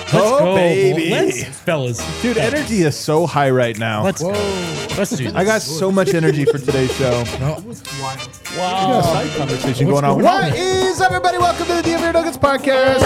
Let's go, baby. fellas. Dude, energy is so high right now. Let's do this. I got so much energy for today's show. It was wild. We got a side conversation going on. What is everybody? Welcome to the DMV Nuggets podcast.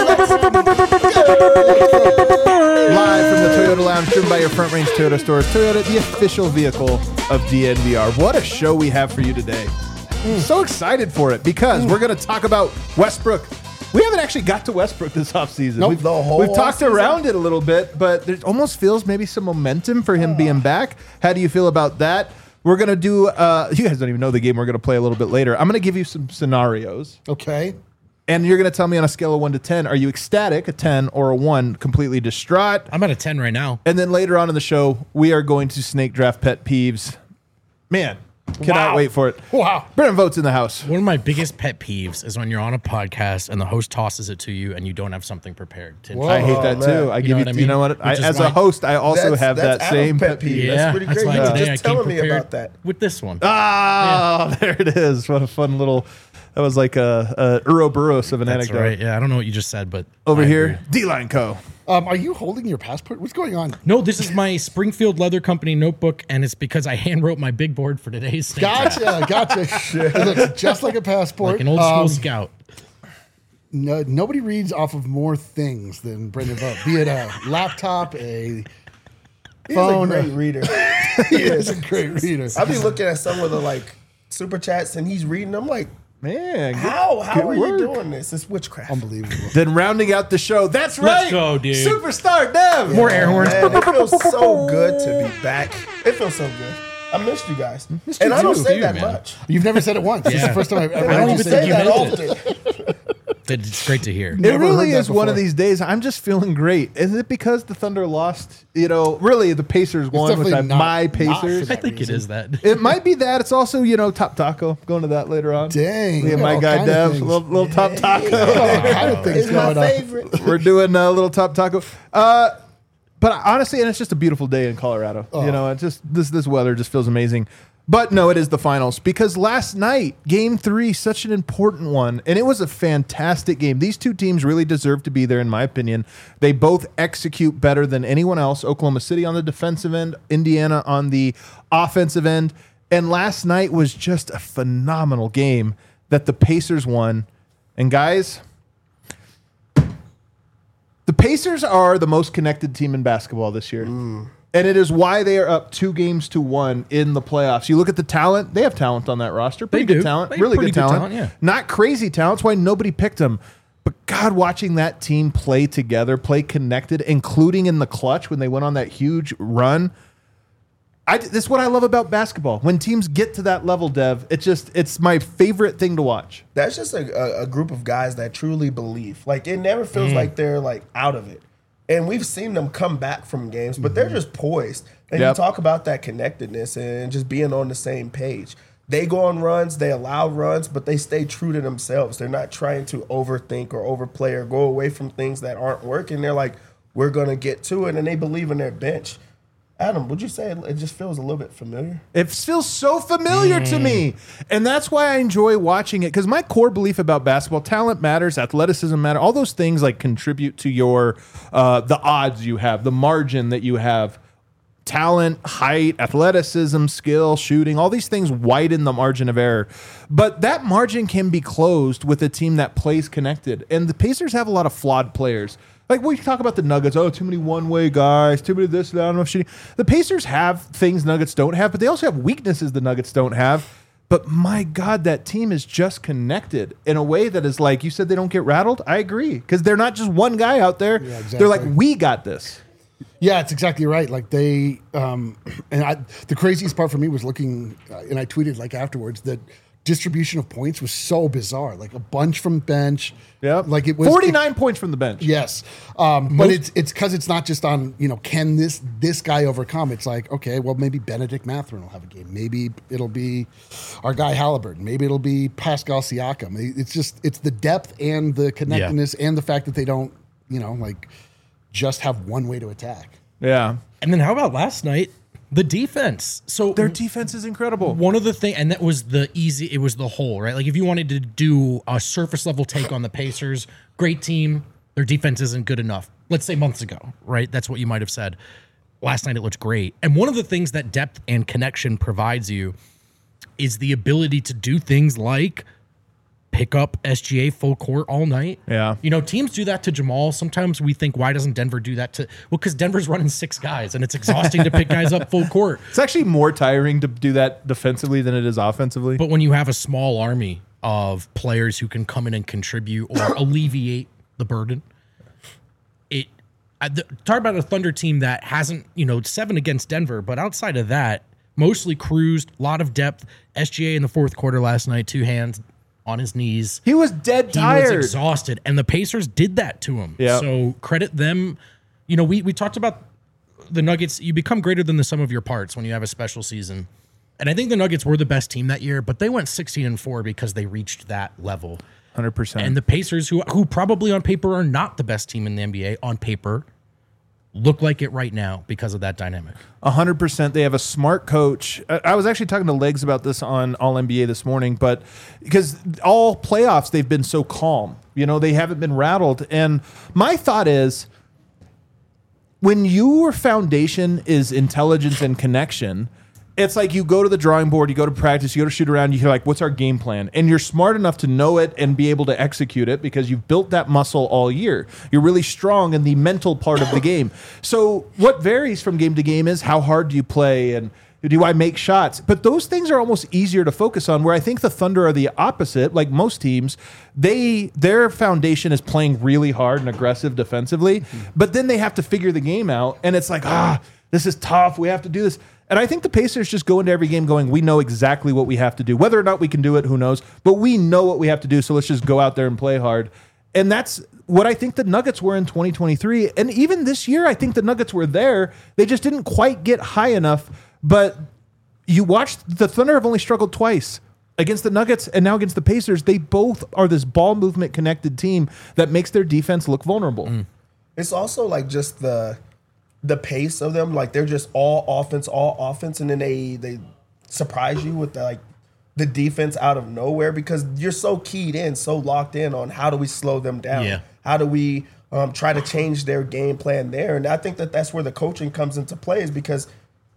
Live from the Toyota Lounge, driven by your Front Range Toyota stores. Toyota, the official vehicle of DNVR. What a show we have for you today. So excited for it because we're going to talk about Westbrook. We haven't actually got to Westbrook this offseason. Nope, We've talked around it a little bit, but there almost feels maybe some momentum for him being back. How do you feel about that? We're going to do, you guys don't even know the game we're going to play a little bit later. I'm going to give you some scenarios. Okay. And you're going to tell me on a scale of 1 to 10, are you ecstatic, a 10, or a 1, completely distraught? I'm at a 10 right now. And then later on in the show, we are going to snake draft pet peeves. Man, cannot wait for it. Wow. Brennan Votes in the house. One of my biggest pet peeves is when you're on a podcast and the host tosses it to you and you don't have something prepared. I hate that too. I give know what I you mean? know what? Which is As why- a host, I also have that Adam's same pet peeve. Yeah, That's pretty that's great. why You were today just I came telling me prepared about that. with this one. There it is. What a fun little, that was like a Ouroboros of an That's anecdote. right. Yeah, I don't know what you just said, but Over I here, agree. D-Line Co. Are you holding your passport? What's going on? No, this is my Springfield Leather Company notebook, and it's because I hand wrote my big board for today's snake draft. Gotcha. It looks just like a passport. Like an old school scout. No, nobody reads off of more things than Brendan Vogt. Be it a laptop, a He's phone. a great reader. He is a great reader. I be looking at some of the like super chats and he's reading. I'm like, Man, how good are you work. doing this? It's witchcraft. Unbelievable. Then rounding out the show, that's right. Let's go, dude. Superstar Dev. More air horns. Man, it feels so good to be back. It feels so good. I missed you guys, you and I don't too. say You, that man. much. You've never said it once. This is Yeah. the first time I've ever I heard don't you even say say you that meant often. It's great to hear. It Never really heard that is one of before. these days. I'm just feeling great. Is it because the Thunder lost? You know, really, the Pacers won, which definitely I'm not- my not Pacers. for I think it is that. It might be that. It's also, you know, Top Taco. Going to that later on. Dang. Me and my All guy kind of Dev, things. little Top Taco. All kind of things It's my going on. favorite. We're doing a little Top Taco. But honestly, and it's just a beautiful day in Colorado. You know, it's just this weather just feels amazing. But no, it is the finals because last night, Game 3, such an important one, and it was a fantastic game. These two teams really deserve to be there, in my opinion. They both execute better than anyone else. Oklahoma City on the defensive end, Indiana on the offensive end, and last night was just a phenomenal game that the Pacers won. And guys, the Pacers are the most connected team in basketball this year. And it is why they are up 2-1 in the playoffs. You look at the talent, they have talent on that roster. Pretty They good do. talent. They have Really pretty good good talent. talent, yeah. Not crazy talent. That's why nobody picked them. But God, watching that team play together, play connected, including in the clutch when they went on that huge run. This is what I love about basketball. When teams get to that level, Dev, it's my favorite thing to watch. That's just a group of guys that truly believe. Like it never feels like they're like out of it. And we've seen them come back from games, but they're just poised. And Yep. you talk about that connectedness and just being on the same page. They go on runs, they allow runs, but they stay true to themselves. They're not trying to overthink or overplay or go away from things that aren't working. They're like, we're going to get to it, and they believe in their bench. Adam, would you say it just feels a little bit familiar? It feels so familiar to me. And that's why I enjoy watching it. Because my core belief about basketball, talent matters, athleticism matters, all those things like contribute to your the odds you have, the margin that you have. Talent, height, athleticism, skill, shooting, all these things widen the margin of error. But that margin can be closed with a team that plays connected. And the Pacers have a lot of flawed players. Like we talk about the Nuggets, too many one-way guys, too many this, that, I don't know if shooting. The Pacers have things Nuggets don't have, but they also have weaknesses the Nuggets don't have. But my God, that team is just connected in a way that is like, you said they don't get rattled? I agree. Because they're not just one guy out there. Yeah, exactly. They're like, we got this. Yeah, it's exactly right. Like they, the craziest part for me was looking, and I tweeted like afterwards that distribution of points was so bizarre. Like a bunch from bench. Yep. Like it was 49 points from the bench. Yes, but it's because it's not just on can this guy overcome? It's like okay, well maybe Benedict Mathurin will have a game. Maybe it'll be our guy Halliburton. Maybe it'll be Pascal Siakam. It's the depth and the connectedness and the fact that they don't just have one way to attack. Yeah. And then how about last night? The defense. So Their defense is incredible. one of the things, and that was it was the whole, right? Like if you wanted to do a surface level take on the Pacers, great team, their defense isn't good enough. let's say months ago, right? That's what you might have said. Last night it looked great. And one of the things that depth and connection provides you is the ability to do things like pick up SGA full court all night. Yeah. You know, teams do that to Jamal. Sometimes we think, why doesn't Denver do that to, well, because Denver's running 6 guys and it's exhausting to pick guys up full court. It's actually more tiring to do that defensively than it is offensively. But when you have a small army of players who can come in and contribute or alleviate the burden, talk about a Thunder team that hasn't, 7 against Denver, but outside of that, mostly cruised, a lot of depth. SGA in the fourth quarter last night, 2 hands on his knees. He was dead tired. He was exhausted, and the Pacers did that to him. Yeah. So credit them. We talked about the Nuggets. You become greater than the sum of your parts when you have a special season. And I think the Nuggets were the best team that year, but they went 16-4 because they reached that level. 100%. And the Pacers, who probably on paper are not the best team in the NBA, on paper, look like it right now because of that dynamic. 100%. They have a smart coach. I was actually talking to Legs about this on All NBA this morning, but because all playoffs, they've been so calm. They haven't been rattled. And my thought is, when your foundation is intelligence and connection, it's like you go to the drawing board, you go to practice, you go to shoot around, you're like, what's our game plan? And you're smart enough to know it and be able to execute it because you've built that muscle all year. You're really strong in the mental part of the game. So what varies from game to game is how hard do you play and do I make shots? But those things are almost easier to focus on, where I think the Thunder are the opposite. Like most teams, their foundation is playing really hard and aggressive defensively, but then they have to figure the game out. And it's like, this is tough. We have to do this. And I think the Pacers just go into every game going, we know exactly what we have to do. Whether or not we can do it, who knows? But we know what we have to do, so let's just go out there and play hard. And that's what I think the Nuggets were in 2023. And even this year, I think the Nuggets were there. They just didn't quite get high enough. But you watch, the Thunder have only struggled twice against the Nuggets and now against the Pacers. They both are this ball movement connected team that makes their defense look vulnerable. It's also like just the pace of them. Like they're just all offense. And then they surprise you with the defense out of nowhere because you're so keyed in, so locked in on how do we slow them down? Yeah. How do we try to change their game plan there? And I think that's where the coaching comes into play, is because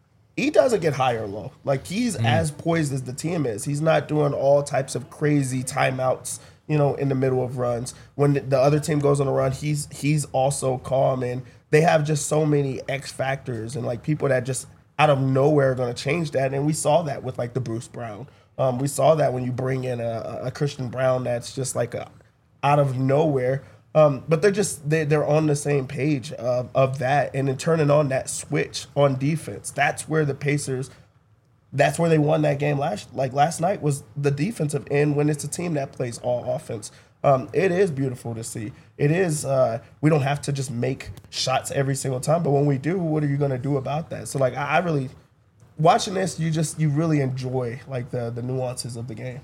he doesn't get high or low. Like he's as poised as the team is. He's not doing all types of crazy timeouts, in the middle of runs. When the other team goes on a run, he's also calm, and they have just so many X factors and like people that just out of nowhere are going to change that. And we saw that with like the Bruce Brown. We saw that when you bring in a Christian Brown that's just like out of nowhere. But they're on the same page of that, and then turning on that switch on defense. That's where the Pacers, that's where they won that game last night, was the defensive end when it's a team that plays all offense. It is beautiful to see. It is. We don't have to just make shots every single time, but when we do, what are you going to do about that? So I really, watching this, you really enjoy like the nuances of the game.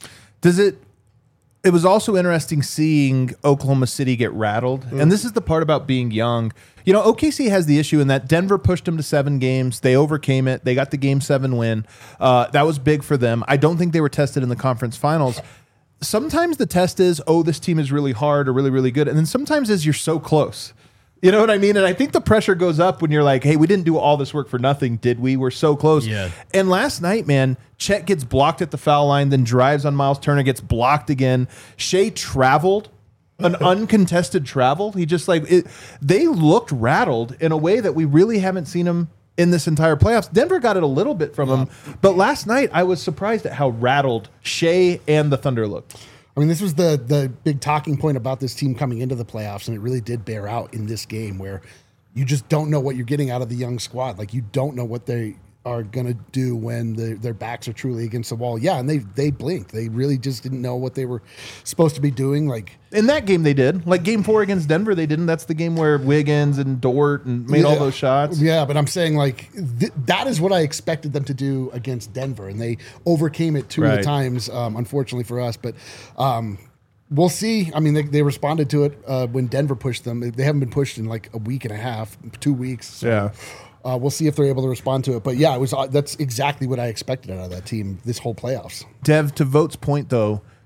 It was also interesting seeing Oklahoma City get rattled. And this is the part about being young. OKC has the issue in that Denver pushed them to 7 games. They overcame it. They got the Game 7 win. That was big for them. I don't think they were tested in the conference finals. Sometimes the test is, this team is really hard or really, really good. And then sometimes you're so close. You know what I mean? And I think the pressure goes up when you're like, hey, we didn't do all this work for nothing, did we? We're so close. Yeah. And last night, man, Chet gets blocked at the foul line, then drives on Miles Turner, gets blocked again. Shea traveled, an uncontested travel. He just they looked rattled in a way that we really haven't seen them in this entire playoffs. Denver got it a little bit from him, but last night I was surprised at how rattled Shea and the Thunder looked. I mean, this was the big talking point about this team coming into the playoffs, and it really did bear out in this game where you just don't know what you're getting out of the young squad. Like, you don't know what they are going to do when their backs are truly against the wall. Yeah, and they blinked. They really just didn't know what they were supposed to be doing. Like in that game, they did. Like Game 4 against Denver, they didn't. That's the game where Wiggins and Dort and made all those shots. Yeah, but I'm saying that is what I expected them to do against Denver, and they overcame it two of the times, unfortunately for us. But we'll see. I mean, they responded to it when Denver pushed them. They haven't been pushed in like a week and a half, 2 weeks. So. Yeah. We'll see if they're able to respond to it. But yeah, that's exactly what I expected out of that team this whole playoffs. Dev, to Vote's point, though,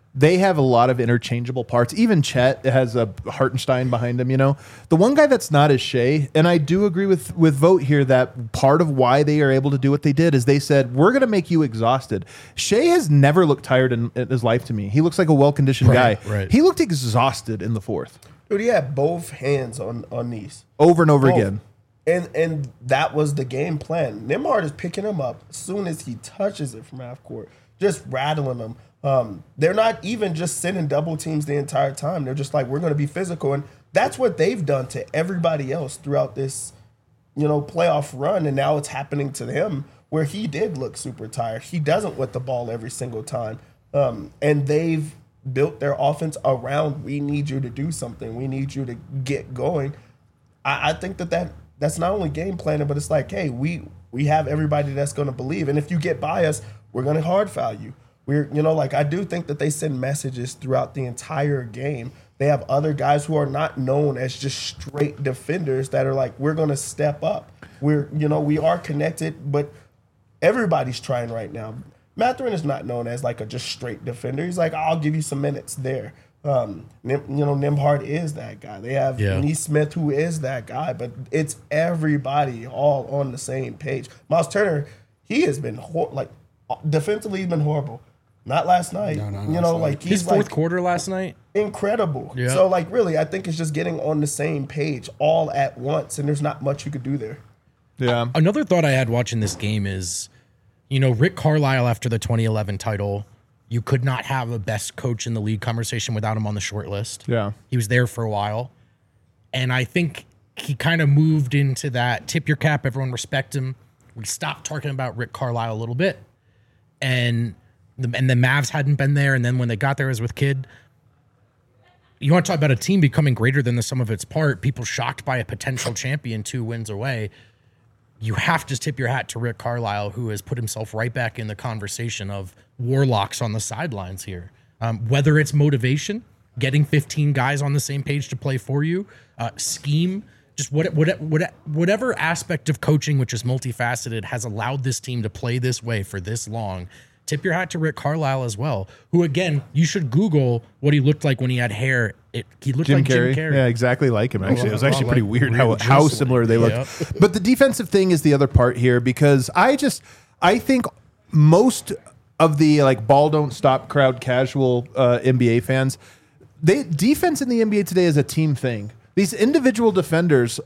they have a lot of interchangeable parts. Even Chet has a Hartenstein behind him, you know. The one guy that's not is Shea, and I do agree with Vogt here that part of why they are able to do what they did is they said, we're going to make you exhausted. Shea has never looked tired in his life to me. He looks like a well-conditioned guy. Right. He looked exhausted in the fourth. Dude, he had both hands on these. Over and over Both. again. And that was the game plan. Nembhard is picking him up as soon as he touches it from half court, just rattling him. They're not even just sending double teams the entire time. They're just like, we're going to be physical. And that's what they've done to everybody else throughout this, playoff run. And now it's happening to him where he did look super tired. He doesn't want the ball every single time. And they've built their offense around, we need you to do something. We need you to get going. I think that's not only game planning, but it's like, hey, we have everybody that's going to believe. And if you get by us, we're going to hard foul you. I do think that they send messages throughout the entire game. They have other guys who are not known as just straight defenders that are like, we're going to step up. We are connected, but everybody's trying right now. Mathurin is not known as like a just straight defender. He's like, I'll give you some minutes there. Nembhard is that guy. They have Neesmith, who is that guy, but it's everybody all on the same page. Miles Turner, he has been defensively, he's been horrible. Not last night. No, his fourth quarter last night, incredible. Yeah. So really, I think it's just getting on the same page all at once, and there's not much you could do there. Yeah. Another thought I had watching this game is, Rick Carlisle after the 2011 title, you could not have a best coach in the league conversation without him on the short list. Yeah. He was there for a while. And I think he kind of moved into that tip your cap, everyone respect him. We stopped talking about Rick Carlisle a little bit. And the Mavs hadn't been there. And then when they got there, it was with Kidd. You want to talk about a team becoming greater than the sum of its part, people shocked by a potential champion 2 wins away. You have to tip your hat to Rick Carlisle, who has put himself right back in the conversation of warlocks on the sidelines here. Whether it's motivation, getting 15 guys on the same page to play for you, scheme, just whatever aspect of coaching, which is multifaceted, has allowed this team to play this way for this long. Tip your hat to Rick Carlisle as well, who, again, you should Google what he looked like when he had hair. He looked like Jim Carrey. Yeah, exactly like him, actually. It was actually pretty weird real how juice. similar they look. Yep. But the defensive thing is the other part here, because I think most of the ball don't stop crowd casual NBA fans, defense in the NBA today is a team thing. These individual defenders,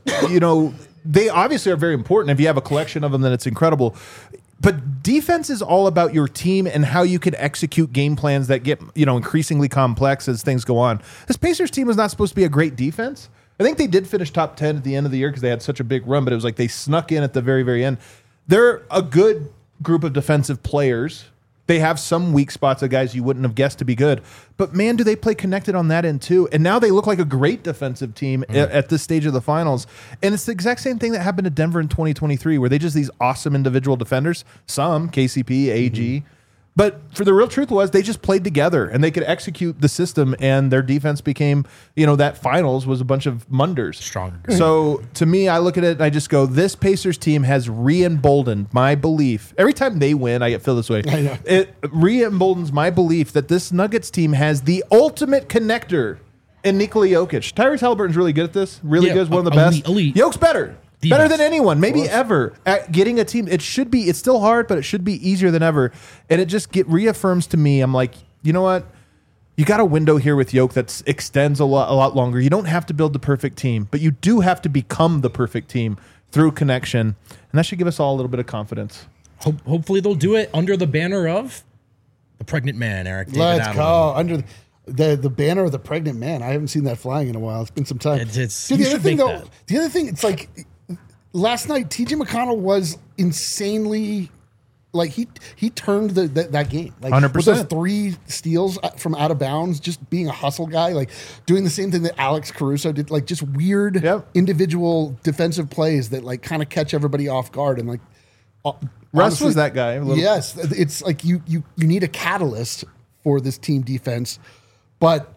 they obviously are very important. If you have a collection of them, then it's incredible. But defense is all about your team and how you can execute game plans that get, increasingly complex as things go on. This Pacers team was not supposed to be a great defense. I think they did finish top 10 at the end of the year because they had such a big run, but it was like they snuck in at the very, very end. They're a good group of defensive players. They have some weak spots of guys you wouldn't have guessed to be good. But, man, do they play connected on that end, too. And now they look like a great defensive team at this stage of the finals. And it's the exact same thing that happened to Denver in 2023, where they just these awesome individual defenders, some, KCP, AG. But for the real truth was they just played together, and they could execute the system, and their defense became, that finals was a bunch of Munders. Stronger. So to me, I look at it and I just go, this Pacers team has re-emboldened my belief. Every time they win, I feel this way. I know. It re-emboldens my belief that this Nuggets team has the ultimate connector in Nikola Jokic. Tyrese Halliburton's really good at this. Really good. Is one of the best. Elite. Jokic's better. The Better best. than anyone, maybe ever, at getting a team. It's still hard, but it should be easier than ever. And it just reaffirms to me, I'm like, you know what? You got a window here with Jokic that extends a lot longer. You don't have to build the perfect team, but you do have to become the perfect team through connection. And that should give us all a little bit of confidence. Hopefully they'll do it under the banner of the pregnant man, Eric. David Let's Adelman. go. Under the banner of the pregnant man. I haven't seen that flying in a while. It's been some time. It's Dude, you should make that. the other thing, it's like last night, TJ McConnell was insanely he turned that game. 100%. With those 3 steals from out of bounds, just being a hustle guy, doing the same thing that Alex Caruso did, just weird individual defensive plays that kind of catch everybody off guard. And Russ honestly, was that guy. Yes, it's like you need a catalyst for this team defense, but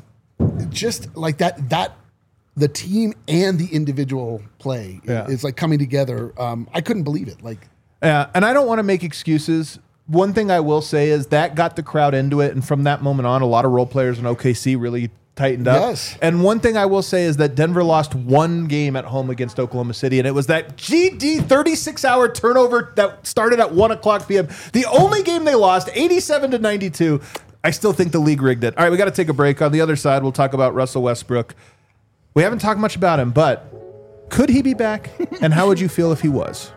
just like that the team and the individual play is coming together. I couldn't believe it. And I don't want to make excuses, one thing I will say is that got the crowd into it, and from that moment on, a lot of role players in OKC really tightened up. Yes. And one thing I will say is that Denver lost one game at home against Oklahoma City, and it was that GD 36-hour turnover that started at 1 o'clock p.m. The only game they lost, 87-92. I still think the league rigged it. All right, we got to take a break. On the other side, we'll talk about Russell Westbrook. We haven't talked much about him, but could he be back? And how would you feel if he was?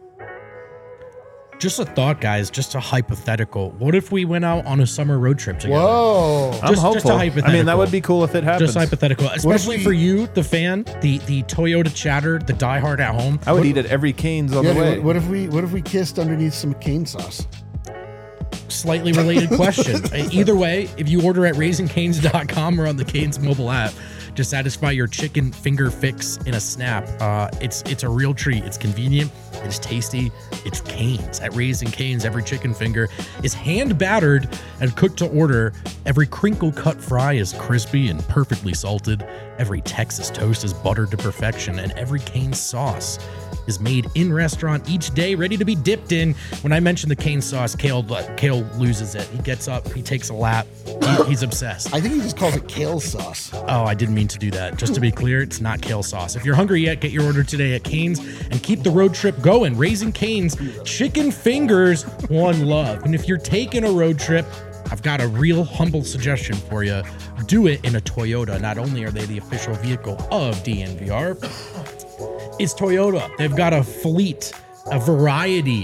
Just a thought, guys. Just a hypothetical. What if we went out on a summer road trip together? Whoa. I'm Just hopeful. a hypothetical. I mean, that would be cool if it happens. Just hypothetical, especially we- for you, the fan, the Toyota chatter, the diehard at home. I would eat at every Cane's on Yeah, the way. what if we kissed underneath some cane sauce? Slightly related question. Either way, if you order at raisingcanes.com or on the Canes mobile app to satisfy your chicken finger fix in a snap, it's a real treat. It's convenient. It's tasty. It's Canes. At Raising Canes, every chicken finger is hand battered and cooked to order. Every crinkle cut fry is crispy and perfectly salted. Every Texas toast is buttered to perfection, and every Canes sauce is made in restaurant each day, ready to be dipped in. When I mention the Canes sauce, Kale loses it. He gets up, he takes a lap. He's obsessed. I think he just calls it kale sauce. Oh, I didn't mean to do that. Just to be clear, it's not kale sauce. If you're hungry yet, get your order today at Cane's and keep the road trip going. Raising Cane's chicken fingers, one love. And if you're taking a road trip, I've got a real humble suggestion for you. Do it in a Toyota. Not only are they the official vehicle of DNVR, it's Toyota. They've got a fleet, a variety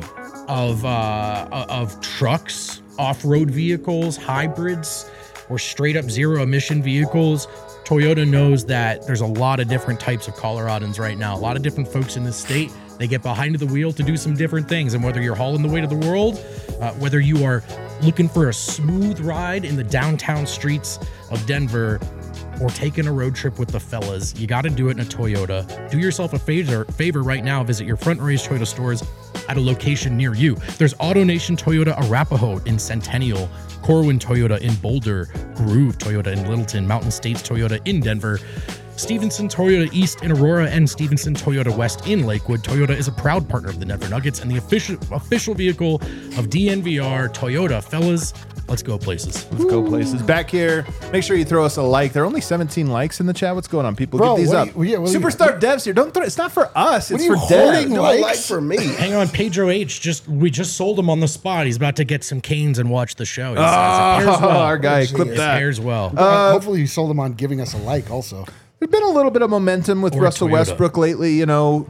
of trucks, off-road vehicles, hybrids, or straight up zero emission vehicles. Toyota knows that there's a lot of different types of Coloradans right now. A lot of different folks in this state. They get behind the wheel to do some different things. And whether you're hauling the weight of the world, whether you are looking for a smooth ride in the downtown streets of Denver, or taking a road trip with the fellas, you got to do it in a Toyota. Do yourself a favor right now. Visit your Front Range Toyota stores at a location near you. There's AutoNation Toyota Arapahoe in Centennial, Corwin Toyota in Boulder, Groove Toyota in Littleton, Mountain States Toyota in Denver, Stevenson Toyota East in Aurora, and Stevenson Toyota West in Lakewood. Toyota is a proud partner of the Denver Nuggets and the official vehicle of DNVR. Toyota, fellas, let's go places. Let's go places. Back here, make sure you throw us a like. There are only 17 likes in the chat. What's going on, people? Bro, Get these what up. are you- what are you- Superstar Devs here. Don't throw. It's not for us. It's are you for Devs. holding Do a likes? like for me. Hang on, Pedro H. We just sold him on the spot. He's about to get some canes and watch the show. He says it pairs well. Our guy, clip It that. pairs well. Hopefully you sold him on giving us a like also. There's been a little bit of momentum with Or Russell Toyota. Westbrook lately. You know,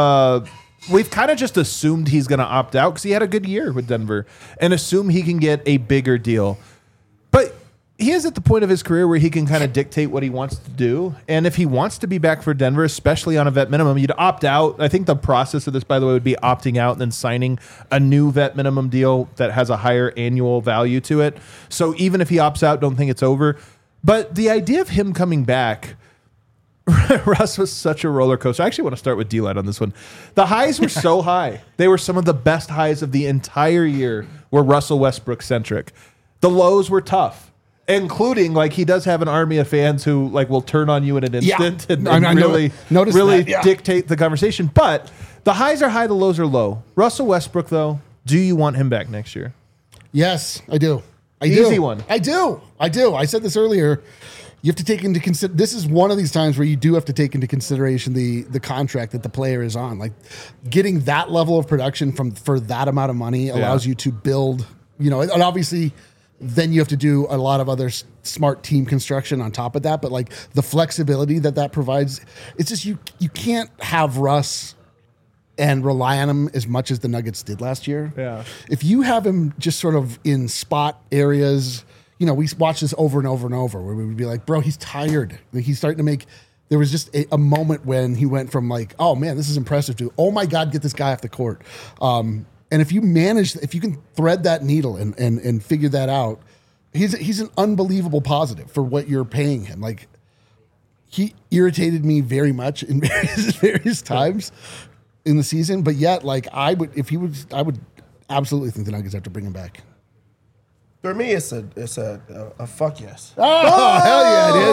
we've kind of just assumed he's going to opt out because he had a good year with Denver and assume he can get a bigger deal. But he is at the point of his career where he can kind of dictate what he wants to do. And if he wants to be back for Denver, especially on a vet minimum, you'd opt out. I think the process of this, by the way, would be opting out and then signing a new vet minimum deal that has a higher annual value to it. So even if he opts out, don't think it's over. But the idea of him coming back, Russ was such a roller coaster. I actually want to start with D-Light on this one. The highs were so high. They were some of the best highs of the entire year were Russell Westbrook centric. The lows were tough, including like he does have an army of fans who like will turn on you in an instant and I really, noticed really that, yeah. dictate the conversation. But the highs are high, the lows are low. Russell Westbrook, though, do you want him back next year? Yes, I do. Easy one. I do. I said this earlier. You have to take into consider. This is one of these times where you do have to take into consideration the contract that the player is on. Like getting that level of production for that amount of money allows you to build. You know, and obviously, then you have to do a lot of other smart team construction on top of that. But like the flexibility that provides, it's just you can't have Russ and rely on him as much as the Nuggets did last year. Yeah. If you have him just sort of in spot areas, you know, we watch this over and over and over where we would be like, bro, he's tired. Like he's starting to make, there was just a moment when he went from like, oh man, this is impressive to, oh my God, get this guy off the court. And if you can thread that needle and figure that out, he's an unbelievable positive for what you're paying him. Like he irritated me very much in various times in the season, but yet like I would absolutely think the Nuggets have to bring him back. For me, it's a fuck yes. Oh, hell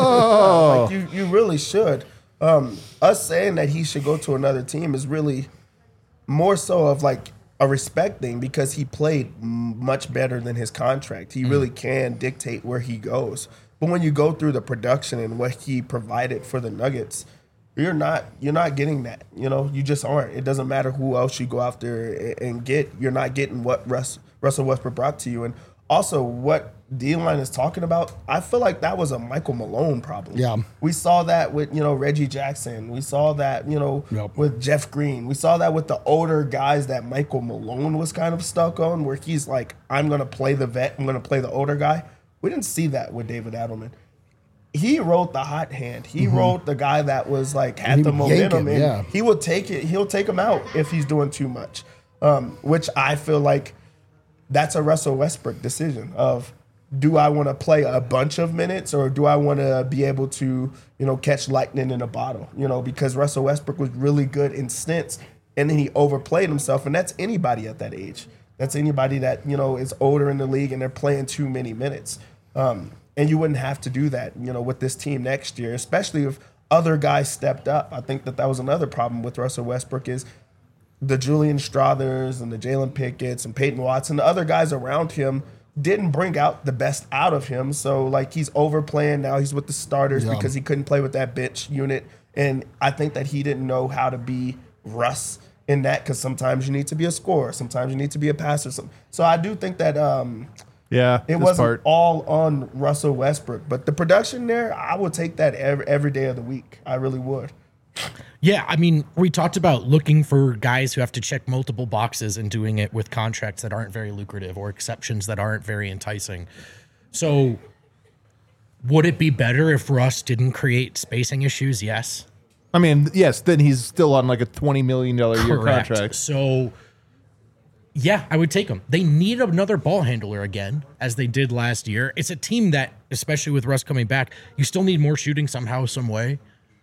yeah, dude. Like you really should. Us saying that he should go to another team is really more so of like a respect thing because he played much better than his contract. He really can dictate where he goes. But when you go through the production and what he provided for the Nuggets, you're not getting that. You just aren't. It doesn't matter who else you go after and get. You're not getting what Russell Westbrook brought to you. And also what D-Line is talking about, I feel like that was a Michael Malone problem. Yeah. We saw that with, Reggie Jackson. We saw that, with Jeff Green. We saw that with the older guys that Michael Malone was kind of stuck on, where he's like, I'm going to play the vet. I'm going to play the older guy. We didn't see that with David Adelman. He rode the hot hand. He rode the guy that was like had the momentum, and he will take it. He'll take him out if he's doing too much, which I feel like that's a Russell Westbrook decision of, do I want to play a bunch of minutes or do I want to be able to, catch lightning in a bottle, because Russell Westbrook was really good in stints and then he overplayed himself. And that's anybody at that age. That's anybody that, is older in the league and they're playing too many minutes. And you wouldn't have to do that, with this team next year, especially if other guys stepped up. I think that was another problem with Russell Westbrook is the Julian Strathers and the Jalen Pickett's and Peyton Watson, the other guys around him didn't bring out the best out of him. So, like, he's overplaying now. He's with the starters because he couldn't play with that bench unit. And I think that he didn't know how to be Russ in that because sometimes you need to be a scorer. Sometimes you need to be a passer. So I do think that it wasn't all on Russell Westbrook. But the production there, I would take that every day of the week. I really would. Yeah, I mean, we talked about looking for guys who have to check multiple boxes and doing it with contracts that aren't very lucrative or exceptions that aren't very enticing. So would it be better if Russ didn't create spacing issues? Yes. I mean, yes, then he's still on like a $20 million a year Correct. contract. So, yeah, I would take him. They need another ball handler again, as they did last year. It's a team that, especially with Russ coming back, you still need more shooting somehow, some way.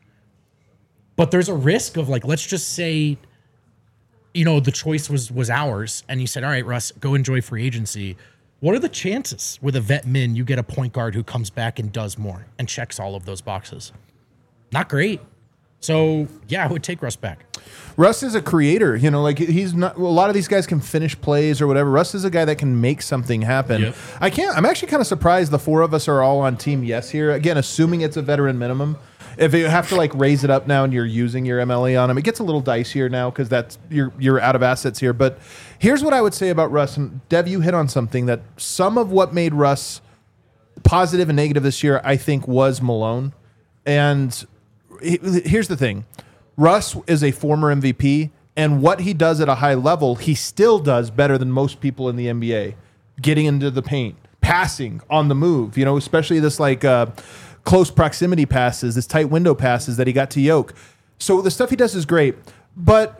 But there's a risk of, like, let's just say, the choice was ours, and you said, all right, Russ, go enjoy free agency. What are the chances with a vet min you get a point guard who comes back and does more and checks all of those boxes? Not great. So, yeah, I would take Russ back. Russ is a creator, like he's not, a lot of these guys can finish plays or whatever. Russ is a guy that can make something happen. Yep. I'm actually kind of surprised the four of us are all on team yes here. Again, assuming it's a veteran minimum. If you have to like raise it up now and you're using your MLE on him, it gets a little dicier now because that's you're out of assets here. But here's what I would say about Russ. And Dev, you hit on something that some of what made Russ positive and negative this year, I think, was Malone. And here's the thing. Russ is a former MVP, and what he does at a high level, he still does better than most people in the NBA. Getting into the paint, passing on the move, especially this like close proximity passes, this tight window passes that he got to Yoke. So the stuff he does is great. But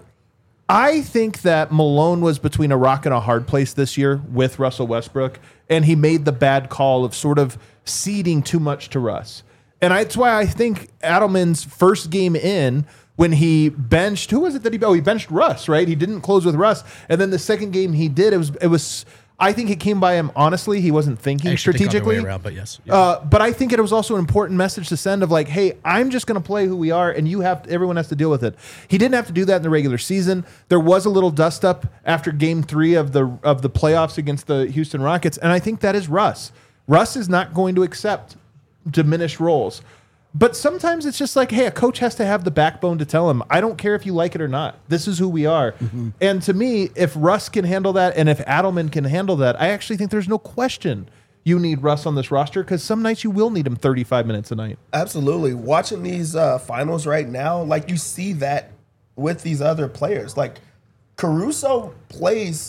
I think that Malone was between a rock and a hard place this year with Russell Westbrook, and he made the bad call of sort of ceding too much to Russ. And that's why I think Adelman's first game in, when he benched, who was it that he benched Russ, right? He didn't close with Russ. And then the second game he did, it was I think it came by him honestly. He wasn't thinking strategically. Think around, but yes. Yeah. But I think it was also an important message to send of like, hey, I'm just going to play who we are, and everyone has to deal with it. He didn't have to do that in the regular season. There was a little dust up after Game 3 of the playoffs against the Houston Rockets, and I think that is Russ. Russ is not going to accept diminished roles. But sometimes it's just like, hey, a coach has to have the backbone to tell him, I don't care if you like it or not. This is who we are. Mm-hmm. And to me, if Russ can handle that and if Adelman can handle that, I actually think there's no question you need Russ on this roster because some nights you will need him 35 minutes a night. Absolutely. Watching these finals right now, like you see that with these other players. Like Caruso plays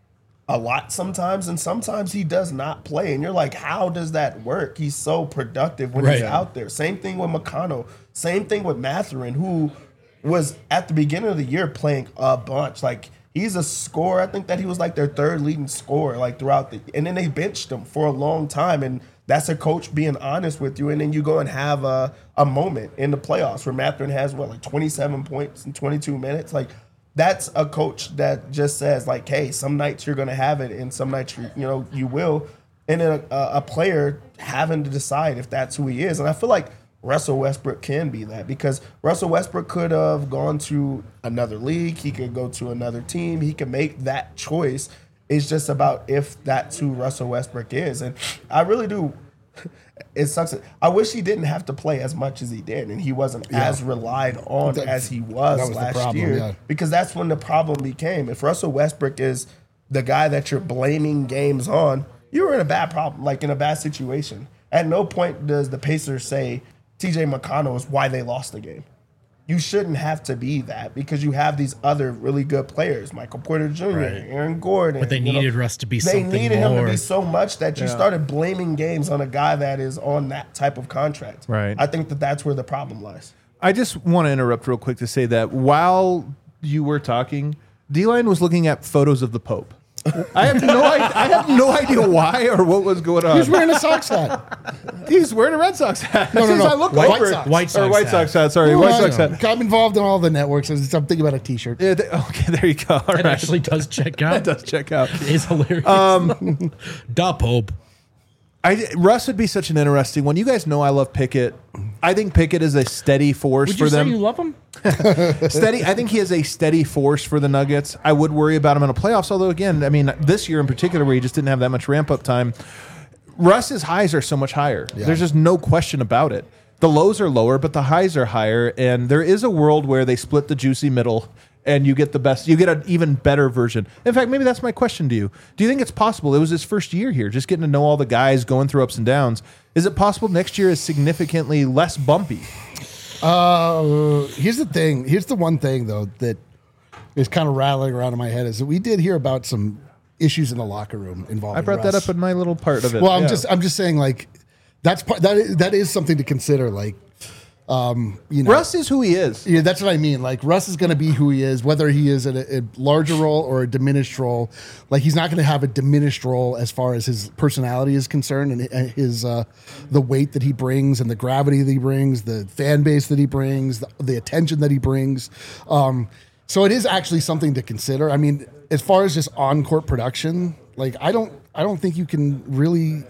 a lot sometimes, and sometimes he does not play. And you're like, how does that work? He's so productive when he's out there. Same thing with McConnell. Same thing with Mathurin, who was at the beginning of the year playing a bunch. Like, he's a scorer. I think that he was like their third leading scorer, like throughout and then they benched him for a long time. And that's a coach being honest with you. And then you go and have a moment in the playoffs where Mathurin has, like 27 points in 22 minutes. Like, that's a coach that just says, like, hey, some nights you're going to have it and some nights, you will. And then a player having to decide if that's who he is. And I feel like Russell Westbrook can be that, because Russell Westbrook could have gone to another league. He could go to another team. He can make that choice. It's just about if that's who Russell Westbrook is. And I really do. It sucks. I wish he didn't have to play as much as he did, and he wasn't as relied on as he was last year. Because that's when the problem became. If Russell Westbrook is the guy that you're blaming games on, you're in a bad problem, like in a bad situation. At no point does the Pacers say TJ McConnell is why they lost the game. You shouldn't have to be that, because you have these other really good players, Michael Porter Jr., Aaron Gordon. But they needed Russ to be something more. They needed him to be so much that you started blaming games on a guy that is on that type of contract. Right. I think that that's where the problem lies. I just want to interrupt real quick to say that while you were talking, D-Line was looking at photos of the Pope. I have no idea why or what was going on. He's wearing a Sox hat. He's wearing a Red Sox hat. No. I look White over Sox. White Sox White Sox hat. Sorry, No, White Sox hat. I'm involved in all the networks. I'm thinking about a T-shirt. Yeah, okay, there you go. All That right. actually does check out. That does check out. It is hilarious. Da Pope. Russ would be such an interesting one. You guys know I love Pickett. I think Pickett is a steady force Would for you say them. you love him? Steady. I think he is a steady force for the Nuggets. I would worry about him in the playoffs, although again, I mean, this year in particular, where he just didn't have that much ramp up time. Russ's highs are so much higher. Yeah. There's just no question about it. The lows are lower, but the highs are higher, and there is a world where they split the juicy middle, and you get the best. You get an even better version. In fact, maybe that's my question to you. Do you think it's possible? It was his first year here, just getting to know all the guys, going through ups and downs. Is it possible next year is significantly less bumpy? Here's the thing. Here's the one thing, though, that is kind of rattling around in my head is that we did hear about some issues in the locker room involving I brought Russ. that up in my little part of it. Well, Yeah. I'm just saying, like, that is something to consider. Like, you know, Russ is who he is. yeah, that's what I mean. Like, Russ is going to be who he is, whether he is in a larger role or a diminished role. Like, he's not going to have a diminished role as far as his personality is concerned, and his the weight that he brings, and the gravity that he brings, the fan base that he brings, the attention that he brings. So it is actually something to consider. I mean, as far as just on court production, like I don't think you can really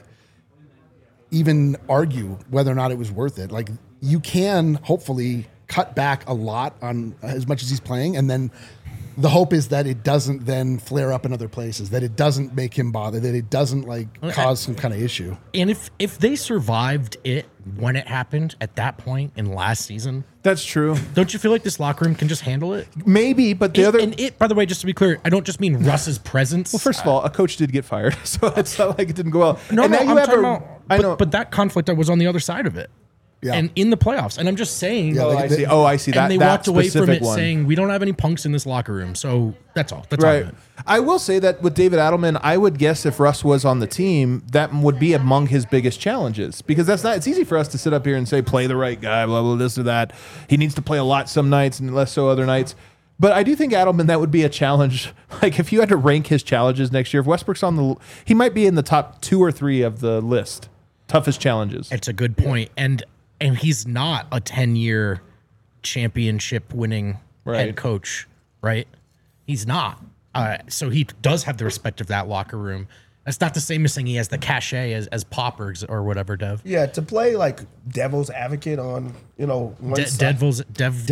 even argue whether or not it was worth it. Like, you can hopefully cut back a lot on as much as he's playing, and then the hope is that it doesn't then flare up in other places, that it doesn't make him bother, that it doesn't like cause some kind of issue. And if they survived it when it happened at that point in last season, That's true. don't you feel like this locker room can just handle it? Maybe, but the other. And it, by the way, just to be clear, I don't just mean Russ's presence. Well, first of all, a coach did get fired, so it's not like it didn't go well. No, and no, now I'm you have talking a- about, I know. but that conflict I was on the other side of it. Yeah. And in the playoffs. And I'm just saying. Yeah, Oh, like, I see. Oh, I see. That and they that walked away from specific it one. saying, we don't have any punks in this locker room. So that's all. That's all. I Right. meant. I will say that with David Adelman, I would guess if Russ was on the team, that would be among his biggest challenges, because that's not. It's easy for us to sit up here and say play the right guy, blah blah this or that. He needs to play a lot some nights and less so other nights. But I do think Adelman, that would be a challenge. Like if you had to rank his challenges next year, if Westbrook's on the, he might be in the top 2 or 3 of the list. Toughest challenges. It's a good point. And he's not a 10-year championship winning Right. head coach, right? He's not. So he does have the respect of that locker room. That's not the same as saying he has the cachet as Poppers or whatever, Dev. Yeah, to play like devil's advocate on, one side. Devil's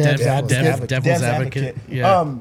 advocate. Yeah.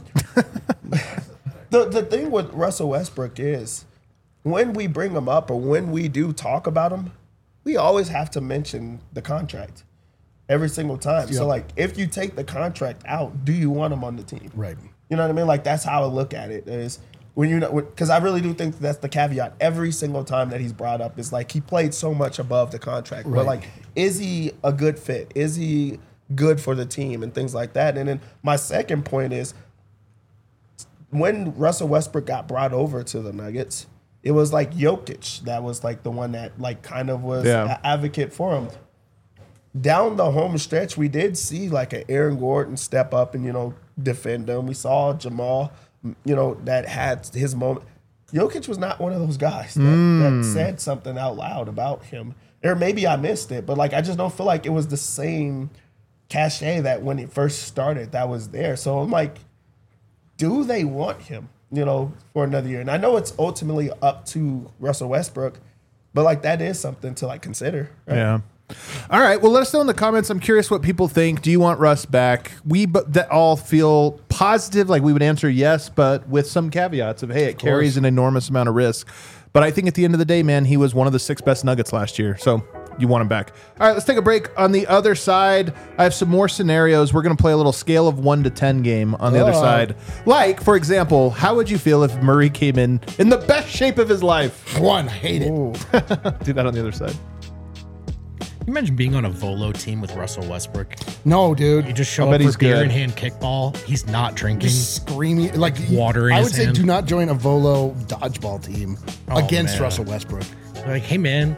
The thing with Russell Westbrook is when we bring him up or when we do talk about him, we always have to mention the contract every single time. So like if you take the contract out, do you want him on the team? Right. You know what I mean? Like that's how I look at it is when you know, because I really do think that's the caveat every single time that he's brought up is like he played so much above the contract. But like, is he a good fit? Is he good for the team and things like that? And then my second point is when Russell Westbrook got brought over to the Nuggets, it was like Jokic that was like the one that like kind of was an advocate for him. Down the home stretch, we did see like an Aaron Gordon step up and, defend him. We saw Jamal, that had his moment. Jokic was not one of those guys that said something out loud about him. Or maybe I missed it, but like I just don't feel like it was the same cachet that when it first started that was there. So I'm like, do they want him, for another year? And I know it's ultimately up to Russell Westbrook, but like that is something to like consider. Right? Yeah. All right. Well, let us know in the comments. I'm curious what people think. Do you want Russ back? We all feel positive, like we would answer yes, but with some caveats of, hey, it carries an enormous amount of risk. But I think at the end of the day, man, he was one of the 6 best Nuggets last year. So you want him back. All right, let's take a break. On the other side, I have some more scenarios. We're going to play a little scale of 1 to 10 game on the other side. Like, for example, how would you feel if Murray came in the best shape of his life? 1, hate it. Do that on the other side. Can you imagine being on a Volo team with Russell Westbrook? No, dude. You just show bet up he's for beer good. in hand kickball. He's not drinking. Just screaming like Water in I his would say hand. do not join a Volo dodgeball team against man. Russell Westbrook. Like, hey man,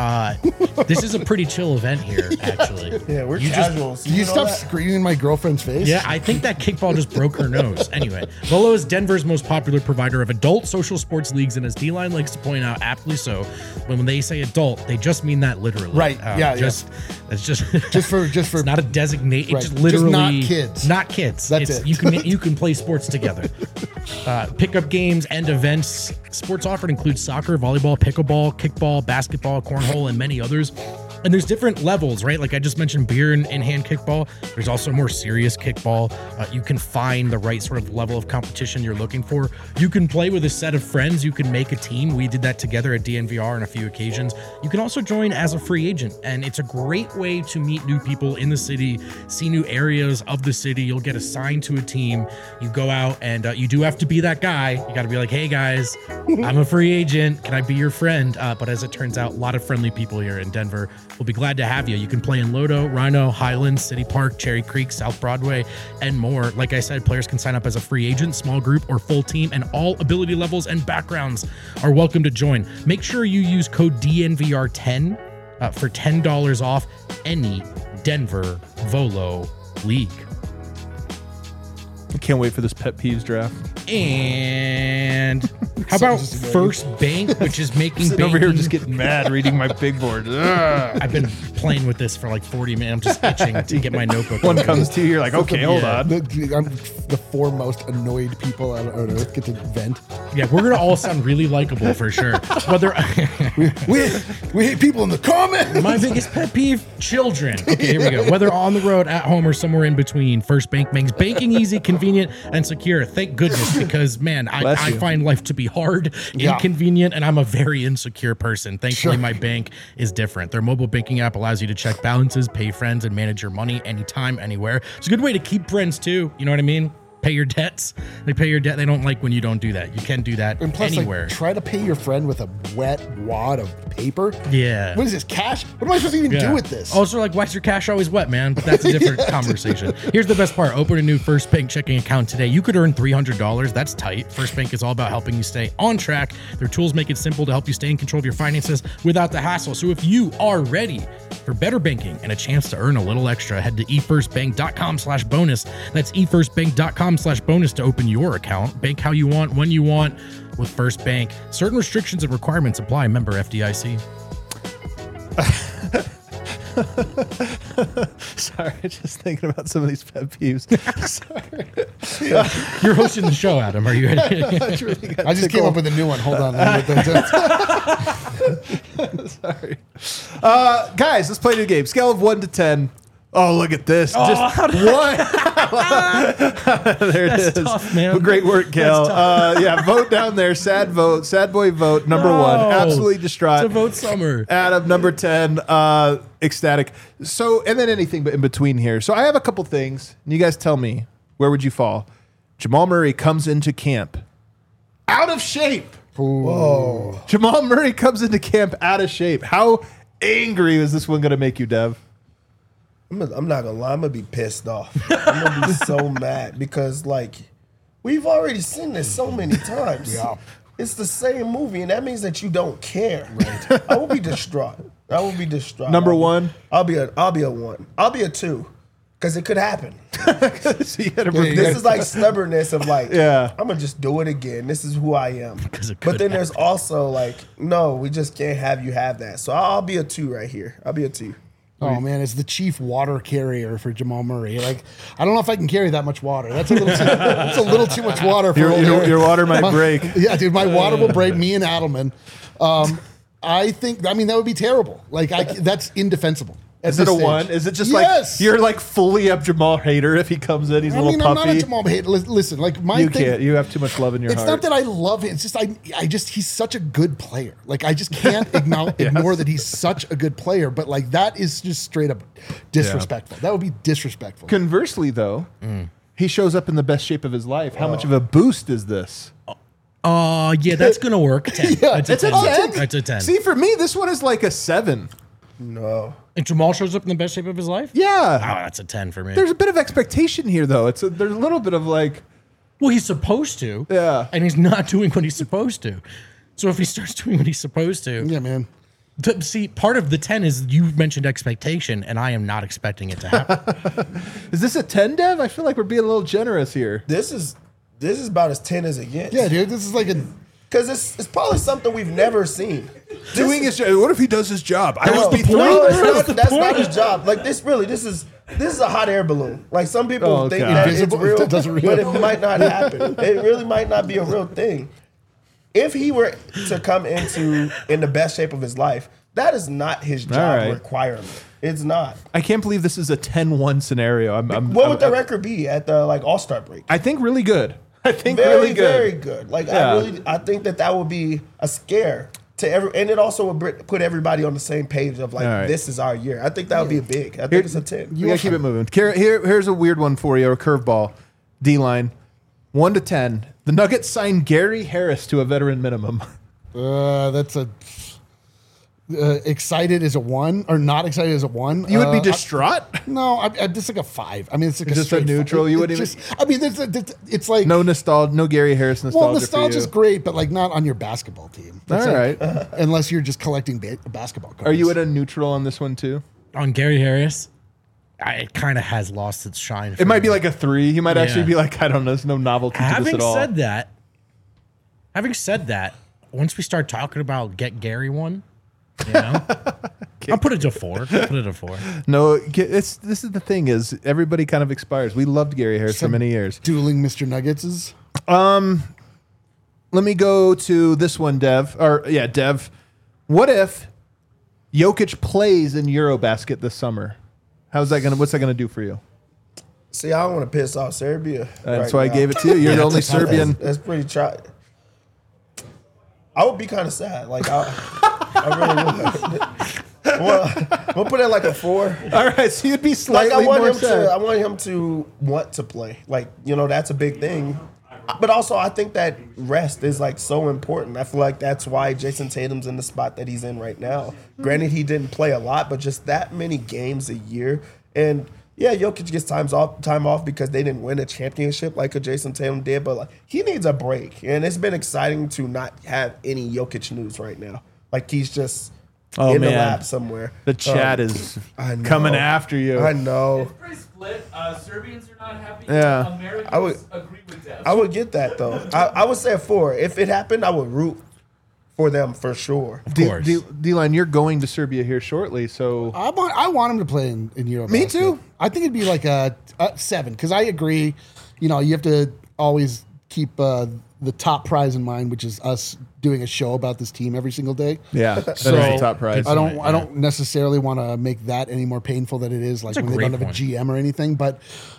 this is a pretty chill event here, actually. Yeah, we're You just- casuals. Can you know stop that? screaming in my girlfriend's face? Yeah, I think that kickball just broke her nose. Anyway, Volo is Denver's most popular provider of adult social sports leagues, and as D-Line likes to point out, aptly so, when they say adult, they just mean that literally. Right, yeah. It's just Just for it's not a designate. Right. It's just Just literally not kids. Not kids. That's It's- it. You can play sports together. Pickup games and events. Sports offered include soccer, volleyball, pickleball, kickball, basketball, cornhole, and many others. And there's different levels, right? Like I just mentioned beer and hand kickball. There's also more serious kickball. You can find the right sort of level of competition you're looking for. You can play with a set of friends. You can make a team. We did that together at DNVR on a few occasions. You can also join as a free agent. And it's a great way to meet new people in the city, see new areas of the city. You'll get assigned to a team. You go out and you do have to be that guy. You got to be like, hey guys, I'm a free agent. Can I be your friend? But as it turns out, a lot of friendly people here in Denver. We'll be glad to have you. You can play in Lodo, Rhino, Highlands, City Park, Cherry Creek, South Broadway, and more. Like I said, players can sign up as a free agent, small group, or full team, and all ability levels and backgrounds are welcome to join. Make sure you use code DNVR10 for $10 off any Denver Volo league. I can't wait for this pet peeves draft. And how about First Bank, which is making Sitting over here banking- just getting mad reading my big board. Ugh. I've been playing with this for like 40 minutes. I'm just itching to get my notebook. One open. comes to you, you're like, okay, hold Yeah. on. I'm the 4 most annoyed people on earth get to vent. Yeah, we're gonna all sound really likable for sure. Whether We hate people in the comments. my biggest pet peeve, children. Okay, here we go. Whether on the road, at home, or somewhere in between, First Bank makes banking easy, convenient, and secure. Thank goodness, because man, Bless I you. find life to be hard, Yeah. inconvenient, and I'm a very insecure person. Thankfully, Sure. my bank is different. Their mobile banking app allows you to check balances, pay friends, and manage your money anytime, anywhere. It's a good way to keep friends too. You know what I mean? Pay your debts. They pay your debt. They don't like when you don't do that. You can do that And plus, anywhere. like, try to pay your friend with a wet wad of paper. Yeah. What is this, cash? What am I supposed to even do with this? Also, like, why's your cash always wet, man? But that's a different conversation. Here's the best part. Open a new First Bank checking account today. You could earn $300. That's tight. First Bank is all about helping you stay on track. Their tools make it simple to help you stay in control of your finances without the hassle. So if you are ready for better banking and a chance to earn a little extra, head to efirstbank.com/bonus. That's efirstbank.com/bonus to open your account. Bank how you want, when you want with First Bank. Certain restrictions and requirements apply. Member FDIC. Sorry, just thinking about some of these pet peeves. Sorry. You're hosting the show, Adam. Are you ready? I just came up with a new one. Hold on. Let me get that. Sorry. Guys, let's play the game. Scale of 1 to 10. Oh, look at this. Just one. There it is. tough, man. Well, great work, Kel. Yeah, vote down there. Sad vote. Sad boy vote. Number 1. Absolutely distraught. It's a vote summer. Adam, number 10, ecstatic. So, and then anything but in between here. So I have a couple things, and you guys tell me, where would you fall? Jamal Murray comes into camp out of shape. Whoa. Jamal Murray comes into camp out of shape. How angry is this one going to make you, Dev? I'm not gonna lie, I'm gonna be pissed off. I'm gonna be so mad because like we've already seen this so many times. Yeah. It's the same movie, and that means that you don't care. Right. I will be distraught. I will be distraught. Number 1. I'll be a 1. I'll be a 2. Because it could happen. So you gotta This is like stubbornness of like, Yeah. I'm gonna just do it again. This is who I am. 'Cause it could But then there's also like, no, we just can't have you have that. So I'll be a 2 right here. I'll be a 2. Oh man, it's the chief water carrier for Jamal Murray. Like, I don't know if I can carry that much water. That's a little too much water for old Eric. your water might break. Yeah, dude, my water will break. Me and Adelman. I think. I mean, that would be terrible. Like, that's indefensible. Is it a 1? Is it just Yes. like you're like fully a Jamal hater if he comes in? He's a I little mean, I'm puffy. not a Jamal hater. Listen, like my You thing, can't. You have too much love in your it's heart. not that I love him. It's just I just he's such a good player. Like I just can't ignore that he's such a good player. But like that is just straight up disrespectful. That would be disrespectful. Conversely, though, he shows up in the best shape of his life. How much of a boost is this? Yeah, that's gonna work. 10. Yeah, That's a It's a 10. 10. That's a 10. See, for me, this one is like a 7. No. And Jamal shows up in the best shape of his life? Oh, Yeah. that's a 10 for me. There's a bit of expectation here, though. There's a little bit of like, Well, he's supposed to. Yeah. And he's not doing what he's supposed to. So if he starts doing what he's supposed to, Yeah, man. see, part of the 10 is you mentioned expectation, and I am not expecting it to happen. is this a 10, Dev? I feel like we're being a little generous here. This is about as 10 as it gets. Yeah, dude. This is like a Because it's probably something we've never seen. Doing his job. What if he does his job? I No, must be no, three. that's not his job. Like this is a hot air balloon. Like some people Oh, think God. that Invisible? it's real, It doesn't but it might not happen. It really might not be a real thing. If he were to come in the best shape of his life, that is not his job right. requirement. It's not. I can't believe this is a 10-1 scenario. What would the record be at the All-Star break? I think really good. I think Very, really good. very good. Like Yeah. I think that would be a scare to and it also would put everybody on the same page of like All right. this is our year. I think that would be big. I think it's a 10. We gotta keep it moving. Here's a weird one for you, a curveball. D-line, 1 to 10. The Nuggets signed Gary Harris to a veteran minimum. that's a excited as a 1 or not excited as a 1. You would be distraught. No, I'm just like a 5. I mean, it's like Just a straight neutral? five. You It wouldn't just, I mean, it's like No nostalgia. No Gary Harris nostalgia. well, nostalgia's for you. great, but like not on your basketball team. That's All like- right. unless you're just collecting basketball cards. Are you at a neutral on this one too? On Gary Harris, it kind of has lost its shine. It might be like a 3. He might actually Yeah. be like, I don't know, there's no novelty to this Having at all. said that, once we start talking about get Gary one, you know, I'll put it to 4. No, this is the thing is everybody kind of expires. We loved Gary Harris for many years. dueling Mr. Nuggets? Let me go to this one, Dev. Dev. What if Jokic plays in Eurobasket this summer? What's that gonna do for you? See, I don't want to piss off Serbia. That's why I gave it to you. You're the only Serbian. That's pretty try. I would be kind of sad. Like I really would. We'll put it like a 4. All right, so you'd be Like slightly I want more him sad. to. I want him to want to play. Like that's a big thing. But also, I think that rest is like so important. I feel like that's why Jason Tatum's in the spot that he's in right now. Granted, he didn't play a lot, but just that many games a year. And yeah, Jokic gets time off because they didn't win a championship like a Jason Tatum did. But like he needs a break, and it's been exciting to not have any Jokic news right now. Like he's just in the man. lab somewhere. The chat is I know. coming after you. I know. It's pretty split. Serbians are not happy. Yeah. Americans I would- agree with that. I would get that though. I would say a 4. If it happened, I would root for them for sure. Of course. D-Line, you're going to Serbia here shortly, so I want him to play in Eurobasket. Me too. I think it'd be like a 7 because I agree. You have to always keep the top prize in mind, which is us doing a show about this team every single day. yeah, that is So, the top prize. I don't necessarily want to make that any more painful than it is, like That's a when they don't great have a point. GM or anything. But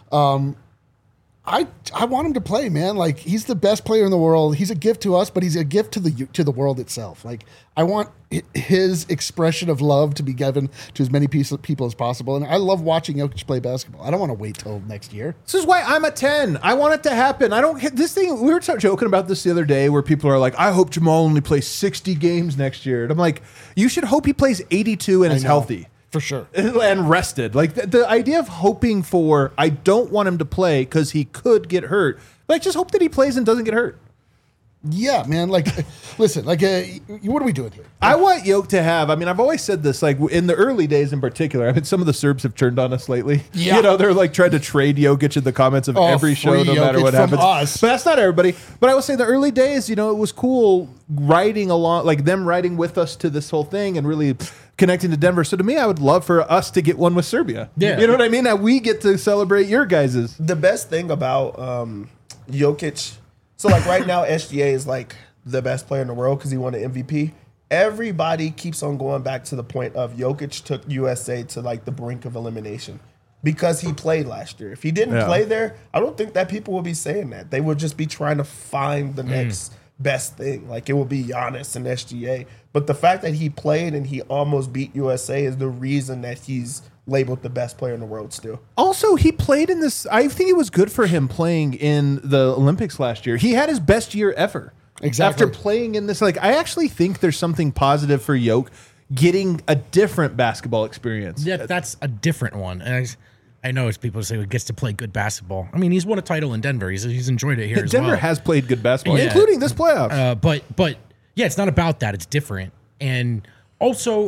I want him to play, man. Like he's the best player in the world. He's a gift to us, but he's a gift to the world itself. Like I want his expression of love to be given to as many people as possible. And I love watching Jokic play basketball. I don't want to wait till next year. This is why I'm a 10. I want it to happen. I don't get this thing. We were joking about this the other day where people are like, I hope Jamal only plays 60 games next year. And I'm like, you should hope he plays 82 and is know. healthy. For sure. And rested. Like the idea of hoping for, I don't want him to play because he could get hurt. Like, just hope that he plays and doesn't get hurt. Yeah, man. Like, listen, like, what are we doing here? I want Yoke to have, I mean, I've always said this, like in the early days in particular, I mean, some of the Serbs have turned on us lately. Yeah. They're like trying to trade Jokic in the comments of every show, free no matter Jokic what from happens. us. But that's not everybody. But I will say the early days, it was cool riding along, like them riding with us to this whole thing and really connecting to Denver. So to me, I would love for us to get one with Serbia. Yeah. You know what I mean? That we get to celebrate your guys's. The best thing about Jokic, so like right now, SGA is like the best player in the world because he won an MVP. everybody keeps on going back to the point of Jokic took USA to like the brink of elimination because he played last year. If he didn't play there, I don't think that people will be saying that. They would just be trying to find the next best thing. Like it will be Giannis and SGA. But the fact that he played and he almost beat USA is the reason that he's labeled the best player in the world still. Also, he played in this. I think it was good for him playing in the Olympics last year. He had his best year ever. Exactly. After playing in this, like, I actually think there's something positive for Yoke getting a different basketball experience. Yeah, that's a different one. And I know it's people say he gets to play good basketball. I mean, he's won a title in Denver. He's enjoyed it here as well. Denver has played good basketball, Yeah. including this playoffs. But yeah, it's not about that. It's different, and also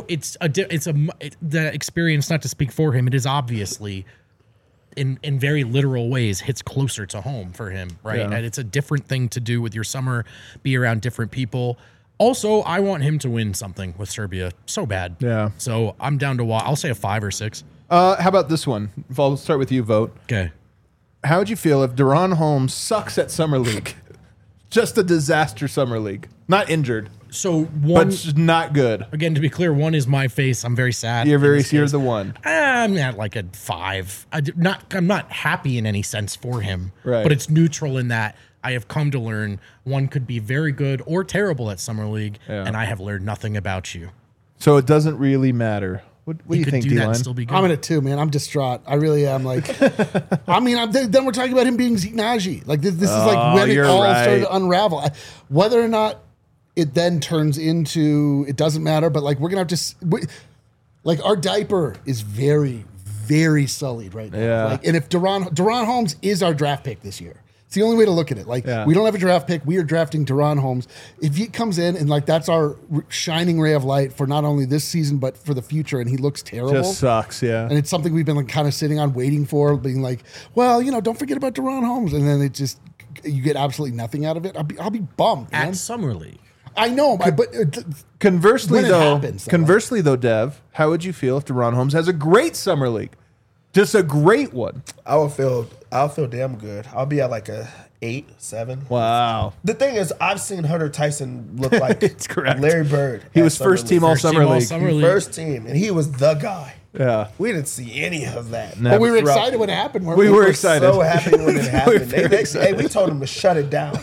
the experience. Not to speak for him, it is obviously in very literal ways hits closer to home for him, right? Yeah. And it's a different thing to do with your summer, be around different people. Also, I want him to win something with Serbia so bad. Yeah. So I'm down to I'll say a 5 or 6. How about this one? I'll start with you, Vote. Okay. How would you feel if Deron Holmes sucks at Summer League? Just a disaster Summer League. Not injured, So but one just not good. again, to be clear, one is my face. I'm very sad. You're in this case. the one. I'm at like a 5. I'm not happy in any sense for him, Right. but it's neutral in that I have come to learn one could be very good or terrible at Summer League, Yeah. and I have learned nothing about you. So it doesn't really matter. What do you could think, do that and D-Line? still be good. I'm in it too, man. I'm distraught. I really am. Like, I mean, then we're talking about him being Nagy. Like, this is like when it you're all right. started to unravel. Whether or not it then turns into, it doesn't matter. But like, we're gonna have to, like, our diaper is very, very sullied right now. Yeah. Like, and if Deron Holmes is our draft pick this year. It's the only way to look at it. Like, Yeah. we don't have a draft pick. We are drafting Deron Holmes. If he comes in and like that's our shining ray of light for not only this season but for the future, and he looks terrible, Just sucks, yeah. and it's something we've been like kind of sitting on, waiting for, being like, well, don't forget about Deron Holmes, and then it just you get absolutely nothing out of it. I'll be bummed, man. At Summer League. I know, but Conversely, when it though, happens, though, Dev, how would you feel if Deron Holmes has a great Summer League? Just a great one. I'll feel damn good. I'll be at like a 8, 7. Wow. The thing is, I've seen Hunter Tyson look like It's correct. Larry Bird. He at was Summer first team League. all Summer League. Summer League. First team, and he was the guy. Yeah. We didn't see any of that. but we were Throughout- excited when it happened. weren't We were We're excited. so happy when it happened. very Hey, we told him to shut it down.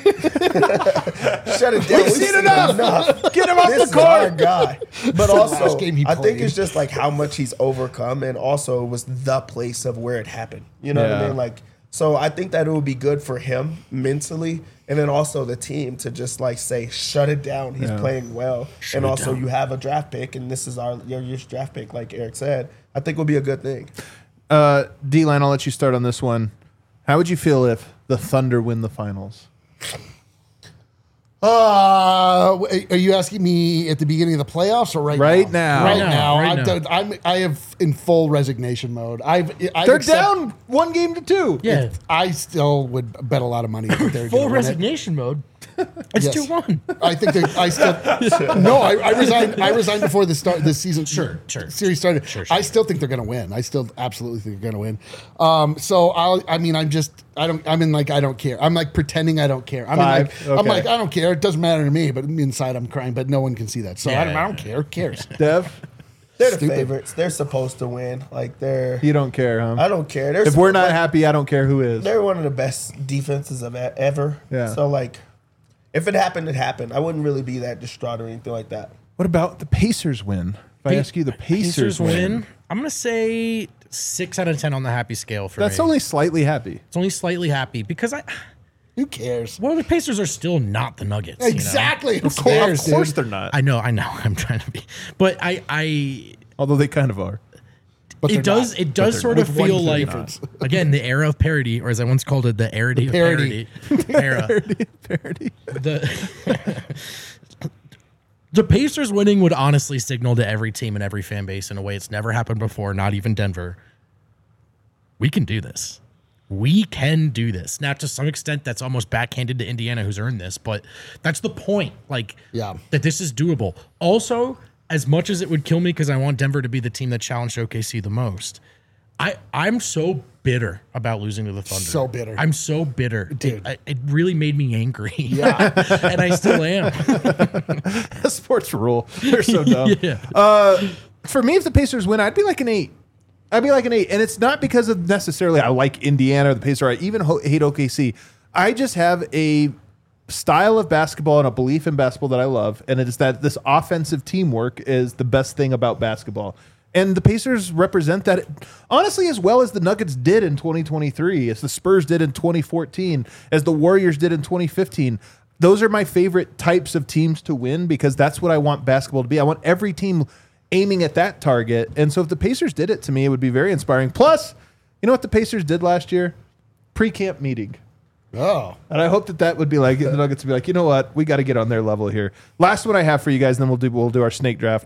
Shut it down. We've seen enough. Get him off This the is our court. guy. But last also, game he I think played. it's just like how much he's overcome, and also it was the place of where it happened. You know what Yeah. I mean? Like, so I think that it would be good for him mentally, and then also the team to just like say, shut it down. He's playing well, and also you have a draft pick, and this is your year's draft pick, like Eric said. I think will be a good thing. D-Line, I'll let you start on this one. How would you feel if the Thunder win the finals? Are you asking me at the beginning of the playoffs or right now? Right Right now. now. I have in full resignation mode. They're down 1-2. Yeah. I still would bet a lot of money that they're Full gonna win it. resignation mode. It's Yes. 2-1. I think I still no. I resigned. I resigned before the start. This season, Sure. series started. Sure. I still think they're going to win. I still absolutely think they're going to win. So I'm don't care. I'm like pretending I don't care. I'm Okay. like I don't care. It doesn't matter to me. But inside I'm crying. But no one can see that. So Yeah. I don't care. Who cares? Dev, They're the Stupid. favorites. They're supposed to win. Like you don't care, huh? I don't care. They're If we're not like, happy, I don't care who is. they're one of the best defenses of ever. Yeah. So like, if it happened, it happened. I wouldn't really be that distraught or anything like that. What about the Pacers win? If I ask you the Pacers win, I'm going to say 6 out of 10 on the happy scale for that's me. only slightly happy. It's only slightly happy because Who cares? the Pacers are still not the Nuggets. you know? Exactly. Who Of cares, course dude? they're not. I know. I'm trying to be, but I Although they kind of are. But they're it does not. it does sort of With one feel clear like difference. again the era of parody, or as I once called it, the arity of parody. parody era. Parody. The Pacers winning would honestly signal to every team and every fan base in a way it's never happened before, not even Denver. We can do this. We can do this. Now, to some extent, that's almost backhanded to Indiana, who's earned this, but that's the point. Like, Yeah. that this is doable. Also, as much as it would kill me because I want Denver to be the team that challenged OKC the most, I'm so bitter about losing to the Thunder. So bitter. I'm so bitter. Dude. It really made me angry. Yeah. And I still am. Sports rule. They're so dumb. Yeah. For me, if the Pacers win, I'd be like an 8. I'd be like an 8. And it's not because of necessarily I like Indiana or the Pacers, or I even hate OKC. I just have a style of basketball and a belief in basketball that I love. And it is that this offensive teamwork is the best thing about basketball. And the Pacers represent that, honestly, as well as the Nuggets did in 2023, as the Spurs did in 2014, as the Warriors did in 2015. Those are my favorite types of teams to win because that's what I want basketball to be. I want every team aiming at that target. And so if the Pacers did it, to me, it would be very inspiring. Plus, you know what the Pacers did last year? Pre-camp meeting. Oh. And I hope that would be like, the Nuggets would be like, you know what? We got to get on their level here. Last one I have for you guys, and then we'll do our snake draft.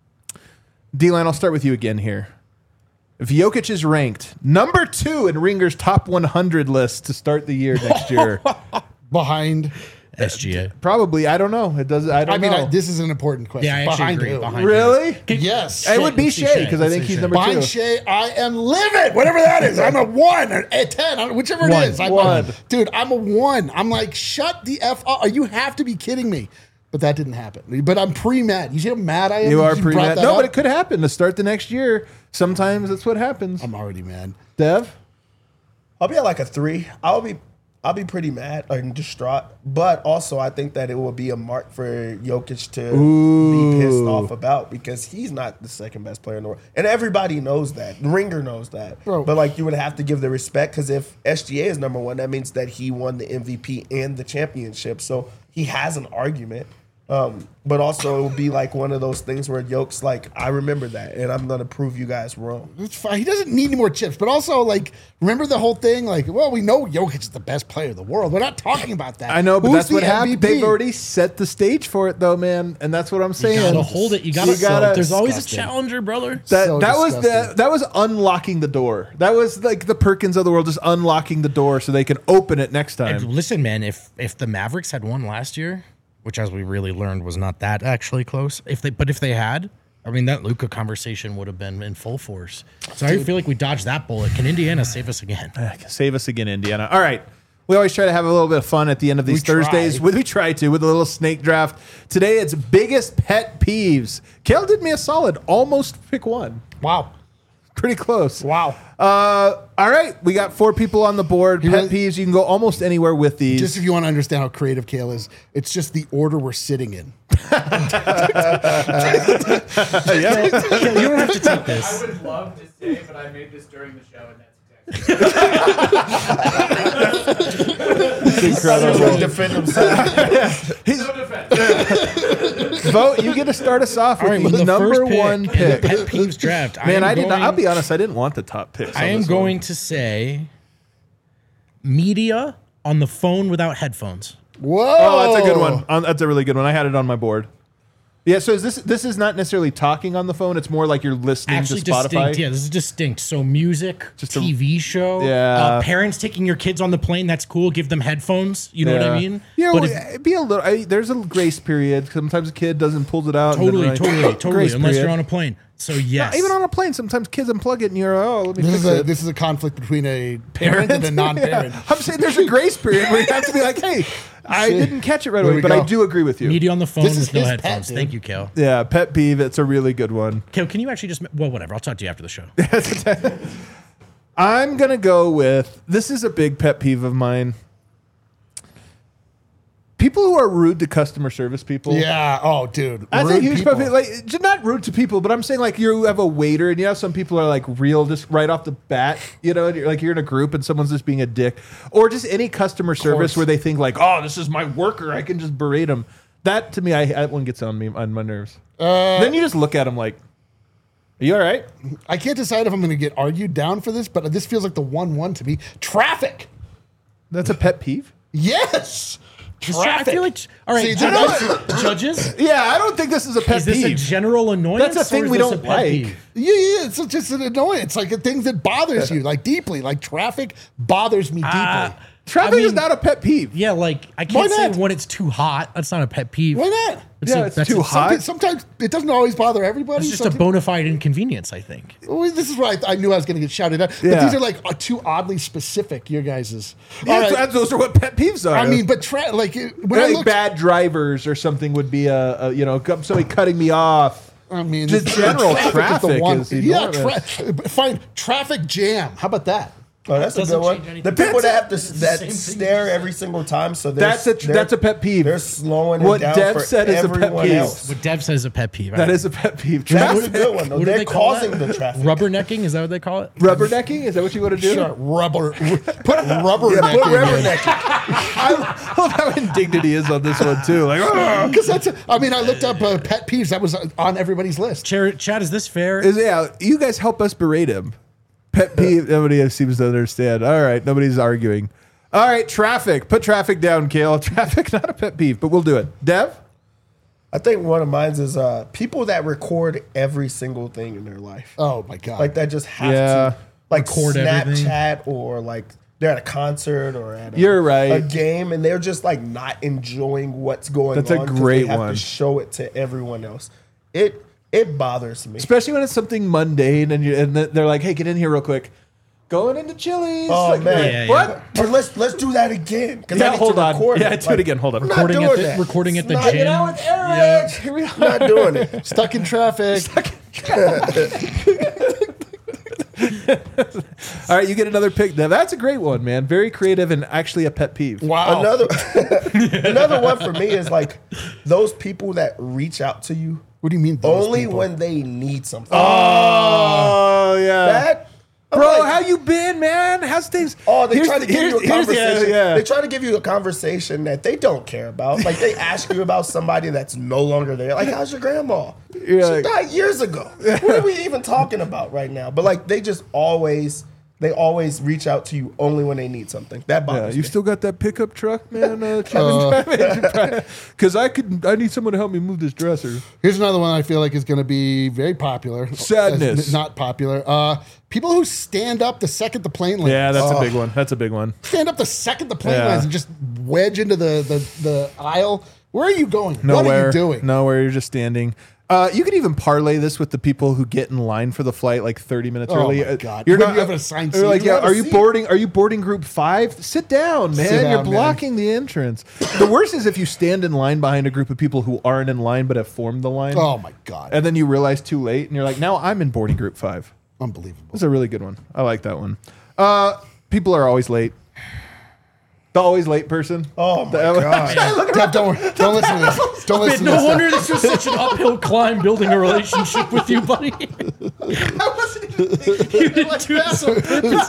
D-Line, I'll start with you again here. If Jokic is ranked number 2 in Ringer's top 100 list to start the year next year, Behind. SGA. probably, I don't know. It does. I don't know. This is an important question. Yeah, I actually Behind agree. who? Behind Really? Yes. It would be Let's see Shea because I Let's think see he's Shea. number Behind 2. Shea, I am livid. Whatever that is. I'm a 1 or a 10, whichever it One. is. One. Dude, I'm a 1. I'm like, shut the F up. You have to be kidding me. But that didn't happen. But I'm pre-mad. You see how mad I am? You are brought pre-mad. that No, up? but it could happen to start the next year. Sometimes that's what happens. I'm already mad. Dev? I'll be at like a 3. I'll be pretty mad and distraught, but also I think that it will be a mark for Jokic to be pissed off about because he's not the second best player in the world, and everybody knows that. Ringer knows that, Bro. but like you would have to give the respect because if SGA is number 1, that means that he won the MVP and the championship, so he has an argument. But also it will be like one of those things where Jokic like, I remember that, and I'm gonna prove you guys wrong. It's fine. He doesn't need any more chips. But also, like, remember the whole thing? Like, well, we know Jokic is the best player in the world. We're not talking about that. I know, but Who's that's the what happened. MVP? They've already set the stage for it, though, man, and that's what I'm saying. To hold it, you gotta. There's always a challenger, brother. That So disgusting. that was unlocking the door. That was like the Perkins of the world, just unlocking the door so they can open it next time. Listen, man, if the Mavericks had won last year, which as we really learned was not that actually close, if they had, I mean, that Luka conversation would have been in full force. So I feel like we dodged that bullet. Can Indiana save us again? Save us again, Indiana. All right. We always try to have a little bit of fun at the end of these Thursdays. We try to with a little snake draft. Today it's biggest pet peeves. Kale did me a solid. Almost pick one. Wow. Pretty close. Wow. All right. We got 4 people on the board. Pet really- peeves. You can go almost anywhere with these. Just if you want to understand how creative Kale is, it's just the order we're sitting in. You don't have to take I this. would love to say, but I made this during the show, and that's exactly incredible. Defend himself. no defense. Vote. You get to start us off with the the number first pick 1 in the pick. pet peeves draft. Man, I didn't. I'll be honest. I didn't want the top picks. I am going to say media on the phone without headphones. Whoa. Oh, that's a good one. That's a really good one. I had it on my board. Yeah, so this is not necessarily talking on the phone. It's more like you're listening Actually to Spotify. distinct. Yeah, this is distinct. So music, Just a- TV show. Yeah. Parents taking your kids on the plane. That's cool. Give them headphones. You know what I mean? Yeah, But well, if- it'd be a little. There's a grace period. Sometimes a kid doesn't pull it out. and Totally, then, like, totally. grace Unless period. you're on a plane. So yes. Even on a plane, sometimes kids unplug it and you're let me fix it. This is a conflict between a parent and a non-parent. Yeah. I'm saying there's a grace period where you have to be like, hey, I didn't catch it right There away, we but go. I do agree with you. media on the phone This is with no his pet, headphones. dude. Thank you, Kale. Yeah, pet peeve. It's a really good one. Kale, can you actually just whatever? I'll talk to you after the show. I'm gonna go with this is a big pet peeve of mine. People who are rude to customer service people. Yeah. Oh, dude. That's a Rude huge people. pet peeve. Like, just not rude to people, but I'm saying like you have a waiter, and you know some people are like real, just right off the bat. You know, and you're in a group, and someone's just being a dick, or just any customer service where they think like, oh, this is my worker, I can just berate him. That to me, that one gets on my nerves. Then you just look at them like, are you all right? I can't decide if I'm going to get argued down for this, but this feels like the 1-1 to me. Traffic. That's a pet peeve. Yes. I feel like all right, See, judges. Yeah, I don't think this is a pet Is this a peeve. general annoyance? That's a thing or is we this don't a pet like. peeve? Yeah, it's just an annoyance. Like a thing that bothers you, like deeply. Like traffic bothers me deeply. Traffic is not a pet peeve. Yeah, like I Why can't say not? when it's too hot. That's not a pet peeve. Why not? It's that's too hot. Sometimes it doesn't always bother everybody. It's just a bona fide inconvenience, I think. Well, this is where I knew I was going to get shouted at. But Yeah. these are like too oddly specific, your guys's. Yeah, All right. those are what pet peeves are. I mean, but when I like looked, bad drivers or something would be somebody cutting me off. I mean, Just general is traffic is enormous. Fine, traffic jam. How about that? Oh, that's a Doesn't good one. change anything. The people that have to same that thing stare you every single time, so That's a pet peeve. They're slowing What it down Dev for said is a pet everyone peeve. else. What Dev says is a pet peeve. That is a pet peeve. That's a Traffic. good one, though. What do They're they call causing that? the traffic. Rubbernecking, is that what they call it? Rubbernecking? Is that what you want to do? Sure, rubber. Put rubber. Yeah, put rubber neck. I love how indignant he is on this one too. Like, "Ugh." Because I looked up pet peeves. That was on everybody's list. Chad, is this fair? You guys help us berate him. Pet peeve. Nobody seems to understand. All right, nobody's arguing. All right, traffic. Put traffic down, Kale. Traffic, not a pet peeve, but we'll do it. Dev? I think one of mine is people that record every single thing in their life. Oh my god! Like that just have Yeah. to like Record everything. Snapchat or like they're at a concert or at You're right. a game and they're just like not enjoying what's going That's a on. 'cause great they have one. to show it to everyone else. It bothers me. Especially when it's something mundane and they're like, hey, get in here real quick. Going into Chili's. Oh Like, man, Yeah, what? Or let's do that again. 'cause I Yeah, need hold to on. record Yeah, it. do it again. Hold on. I'm not Recording doing at the- that. recording at the It's gym. Hanging out with Eric. Yeah. Here we are. Not doing it. Stuck in traffic. All right, you get another pick. Now, that's a great one, man. Very creative and actually a pet peeve. Wow. Another one for me is like those people that reach out to you What do you mean? Those only people? when they need something. Oh, yeah. That I'm Bro, like, how you been, man? How's things? Oh, they Here's try to the- give you a here's the- conversation. yeah. They try to give you a conversation that they don't care about. Like they ask you about somebody that's no longer there. Like, how's your grandma? You're She like- died years ago. What are we even talking about right now? But like, they always reach out to you only when they need something. That Yeah, bothers you me. still got that pickup truck, man? Because I need someone to help me move this dresser. Here's another one I feel like is going to be very popular. Sadness. Not popular. People who stand up the second the plane lands. Yeah, that's a big one. That's a big one. Stand up the second the plane Yeah. lands and just wedge into the aisle. Where are you going? Nowhere. What are you doing? Nowhere. You're just standing. You could even parlay this with the people who get in line for the flight like 30 minutes Oh early. my God. You're When not you have an assigned They're seat, like, you yeah, have a are you seat. boarding? Are you boarding group 5? Sit down, man. Sit You're down, man. blocking the entrance. The worst is if you stand in line behind a group of people who aren't in line but have formed the line. Oh my God. And then you realize too late, and you're like, now I'm in boarding group 5. Unbelievable. That's a really good one. I like that one. People are always late. The always late person. Oh my god! Dev, don't listen to this. Don't listen to No this. wonder this was such an uphill climb building a relationship with you, buddy. I wasn't even thinking You didn't do it so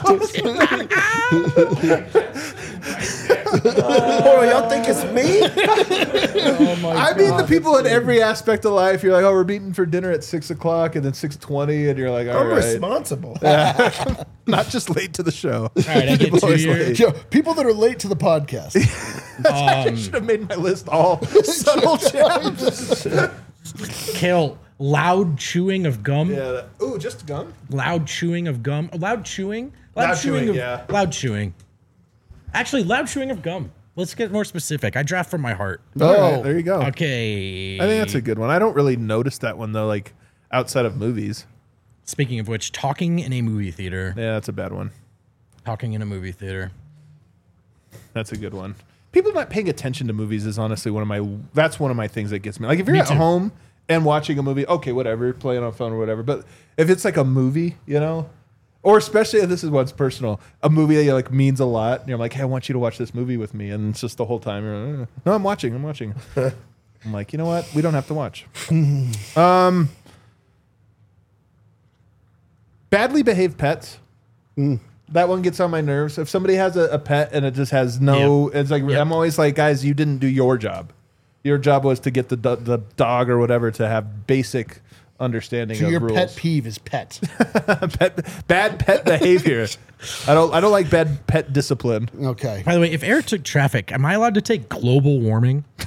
Hold on, y'all think it's me? I mean, the people in every aspect of life. You're like, oh, we're meeting for dinner at 6 o'clock, and then 6:20, and you're like, all I'm right, responsible. not just late to the show. All right, I get People 2 always years. late. Yo, people that are late to the podcast. I should have made my list all subtle gems. Kale, loud chewing of gum. Yeah. Ooh, just gum. Loud chewing of gum. Loud chewing. Loud chewing, of, yeah. Loud chewing. Actually, loud chewing of gum. Let's get more specific. I draft from my heart. All right, there you go. Okay. I think that's a good one. I don't really notice that one though, like outside of movies. Speaking of which, talking in a movie theater. Yeah, that's a bad one. Talking in a movie theater. That's a good one. People not paying attention to movies is honestly one of my things that gets me. Like if you're Me at too. home and watching a movie, okay, whatever, playing on phone or whatever. But if it's like a movie, you know, or especially if this is what's personal, a movie that like means a lot, and you're like, hey, I want you to watch this movie with me, and it's just the whole time you're like, no, I'm watching. I'm like, you know what? We don't have to watch. Badly behaved pets. That one gets on my nerves. If somebody has a pet and it just has no, it's like I'm always like, guys, you didn't do your job. Your job was to get the dog or whatever to have basic understanding So of your rules. pet peeve is pets. Bad pet behavior. I don't like bad pet discipline. Okay. By the way, if Eric took traffic, am I allowed to take global warming? Is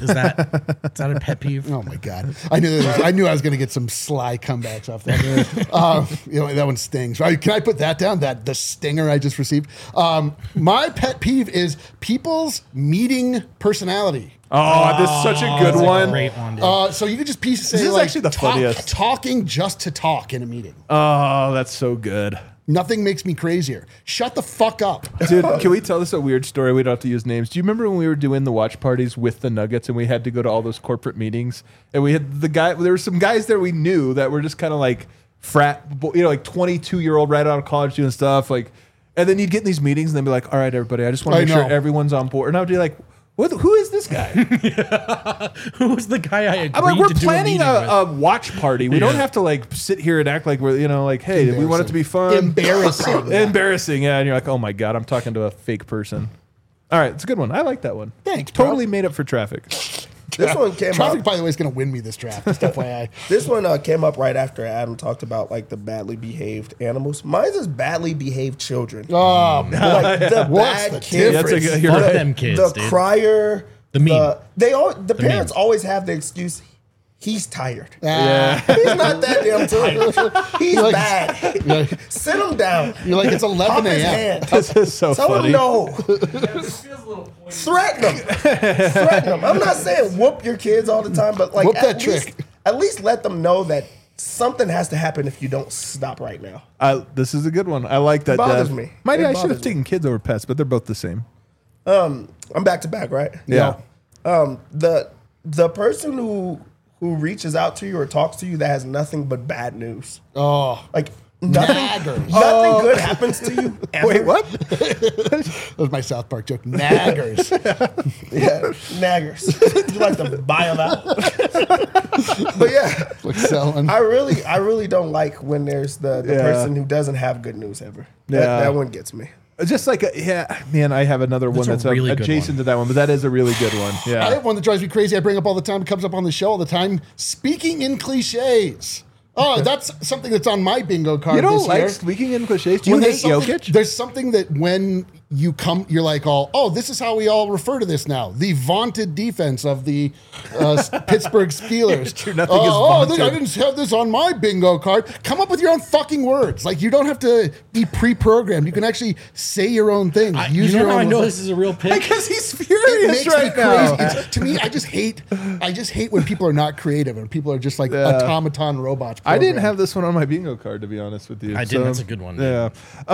Is that a pet peeve? Oh my god! I knew I was going to get some sly comebacks off that. That one stings. Right, can I put that down? That the stinger I just received. My pet peeve is people's meeting personality. Oh, this is such a good one. Great one, dude. So you could just say is like actually the funniest. talking just to talk in a meeting. Oh, that's so good. Nothing makes me crazier. Shut the fuck up. Dude, can we tell this a weird story? We don't have to use names. Do you remember when we were doing the watch parties with the Nuggets and we had to go to all those corporate meetings? And we had there were some guys there we knew that were just kind of like frat, like 22-year-old right out of college doing stuff. Like, and then you'd get in these meetings and they'd be like, all right, everybody, I just want to make sure everyone's on board. And I'd be like, who is this guy? Who was the guy I agreed I'm like, we're to do planning a meeting with? a watch party. We don't have to like sit here and act like we're, like, hey, we want it to be fun. Embarrassing. Embarrassing, yeah. And you're like, oh my God, I'm talking to a fake person. All right, it's a good one. I like that one. Thanks, bro. Totally made up for traffic. This one came Traffic, up. by the way, is going to win me this draft. Just FYI. This one came up right after Adam talked about like the badly behaved animals. Mine's is badly behaved children. Oh, Like the What's bad the kids. That's a good- you're Fuck right. them kids, The dude. crier. The meme. The parents meme. always have the excuse. He's tired. Yeah. He's not that damn tired. He's Like- bad. Sit him down. You're like, it's 11 Pop his a.m. hand. This is so Tell funny. him no. This feels a little pointy. Threaten them. Threaten them. I'm not saying whoop your kids all the time, but like Whoop that least, trick. at least let them know that something has to happen if you don't stop right now. This is a good one. I like that. bothers Dad. me. Mighty, It I should have bothers me. taken kids over pets, but they're both the same. I'm back to back, right? Yeah. The person who reaches out to you or talks to you that has nothing but bad news. Oh, Like nothing Naggers. nothing good happens to you ever. Wait, what? that was my South Park joke. Naggers. Yeah, naggers. You like to buy them out. But yeah, Like selling. I really don't like when there's the Yeah. person who doesn't have good news ever. Yeah. That one gets me. Just like, man, I have another one That's that's a really good adjacent one. to that one, but that is a really good one. Yeah. I have one that drives me crazy. I bring up all the time. It comes up on the show all the time. Speaking in cliches. Oh, that's something that's on my bingo card You don't this like year. speaking in cliches? Do you When hate there's something- Jokic? There's something that when you come, you're like, this is how we all refer to this now. The vaunted defense of the Pittsburgh Steelers. It's true, nothing is vaunted. I didn't have this on my bingo card. Come up with your own fucking words. Like, you don't have to be pre-programmed. You can actually say your own things. Use You know your how own I know words. this is a real pick? Because he's It furious makes right me now. crazy. To me, I just hate when people are not creative and people are just like automaton robots. I didn't programmed. have this one on my bingo card, to be honest with you. I did. That's a good one, dude. Yeah.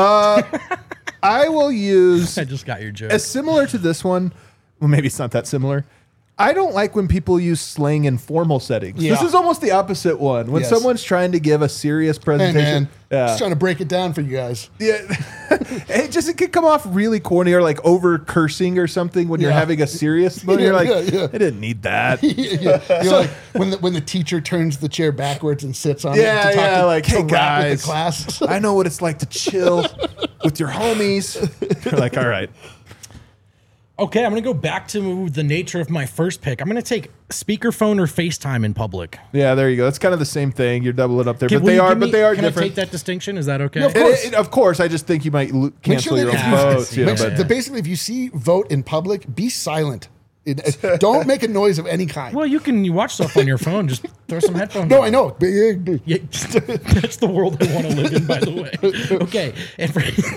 I will use I just got your joke. as similar to this one. Well, maybe it's not that similar. I don't like when people use slang in formal settings. Yeah. This is almost the opposite one. When Yes. someone's trying to give a serious Hey, presentation. man. Yeah. Just trying to break it down for you guys. Yeah, it could come off really corny or like over cursing or something when you're Yeah. having a serious moment. You're like, Yeah. I didn't need that. You're like when the teacher turns the chair backwards and sits on it Yeah, to talk yeah, to, like, to hey, rap with guys. the class. I know what it's like to chill with your homies. You're like, all right. Okay, I'm going to go back to the nature of my first pick. I'm going to take speakerphone or FaceTime in public. Yeah, there you go. It's kind of the same thing. You're doubling up there, but Will they you are, give but me- they are Can I different. take that distinction? Is that okay? Yeah, of course. Of course, I just think you might cancel your own if you- votes. You know, make sure- but basically, if you see vote in public, be silent. Don't make a noise of any kind. Well, you watch stuff on your phone. Just throw some headphones No, on. I know. Yeah, that's the world I want to live in, by the way. Okay. And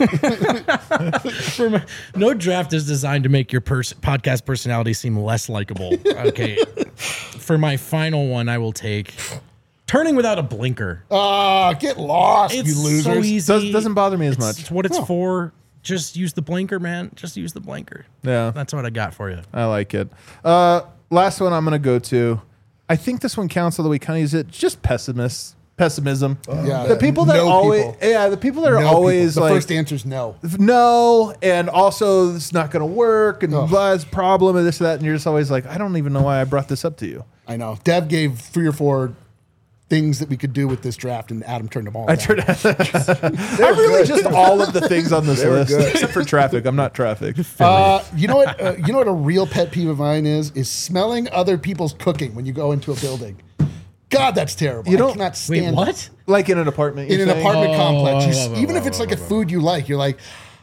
no draft is designed to make your podcast personality seem less likable. Okay. For my final one, I will take turning without a blinker. Get lost, It's you losers. so easy. doesn't bother me as It's much. what it's for. Just use the blinker, man. Just use the blinker. Yeah. That's what I got for you. I like it. Last one I'm going to go to. I think this one counts, although we kind of use it. Just pessimism. Yeah. The people that No always, people. yeah, the people that are No always people. The like, first answer is no. no, and also it's not going to work, and blah, it's a problem, and this, that, and you're just always like, I don't even know why I brought this up to you. I know. Dev gave 3 or 4 things that we could do with this draft, and Adam turned them all I down. I'm really just all of the things on this list, good. except for traffic. I'm not traffic. You know what? You know what a real pet peeve of mine is smelling other people's cooking when you go into a building. God, that's terrible. You don't- I cannot Wait, stand what? Like in an apartment. in you're an saying? apartment complex. whoa, Even if it's like a food you like, you're like,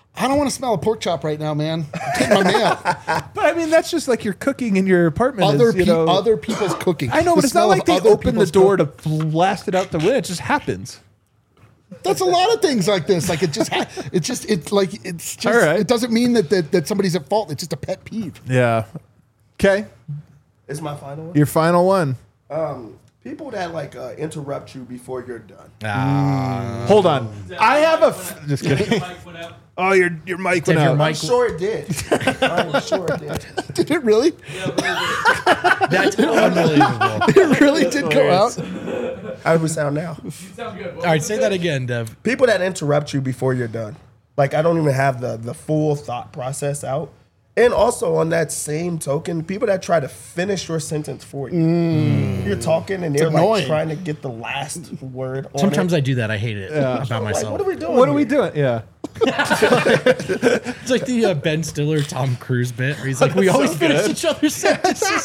I don't want to smell a pork chop right now, man. Take my mail. But I mean, that's just like you're cooking in your apartment. Other people's cooking. I know, The but it's not smell like of they other open the people's door cooking. to blast it out the window. It just happens. That's a lot of things like this. Like it's just. All right. It doesn't mean that somebody's at fault. It's just a pet peeve. Yeah. Okay. It's my final one. Your final one. People that like interrupt you before you're done. Hold on. I have just kidding. Mike went out. Oh, your mic went Did your out. mic- I'm sure it did. I'm sure it did. Did it really? That's unbelievable. It really did go out. How do we sound now? You sound good. All right, say that again, Dev. People that interrupt you before you're done. Like I don't even have the full thought process out. And also on that same token, people that try to finish your sentence for you. You're talking and they're like annoying. trying to get the last word on Sometimes it. I do that. I hate it about Like, myself. what are we doing? What are we here? doing? Yeah. It's like the Ben Stiller, Tom Cruise bit where he's like, we always finish each other's sentences.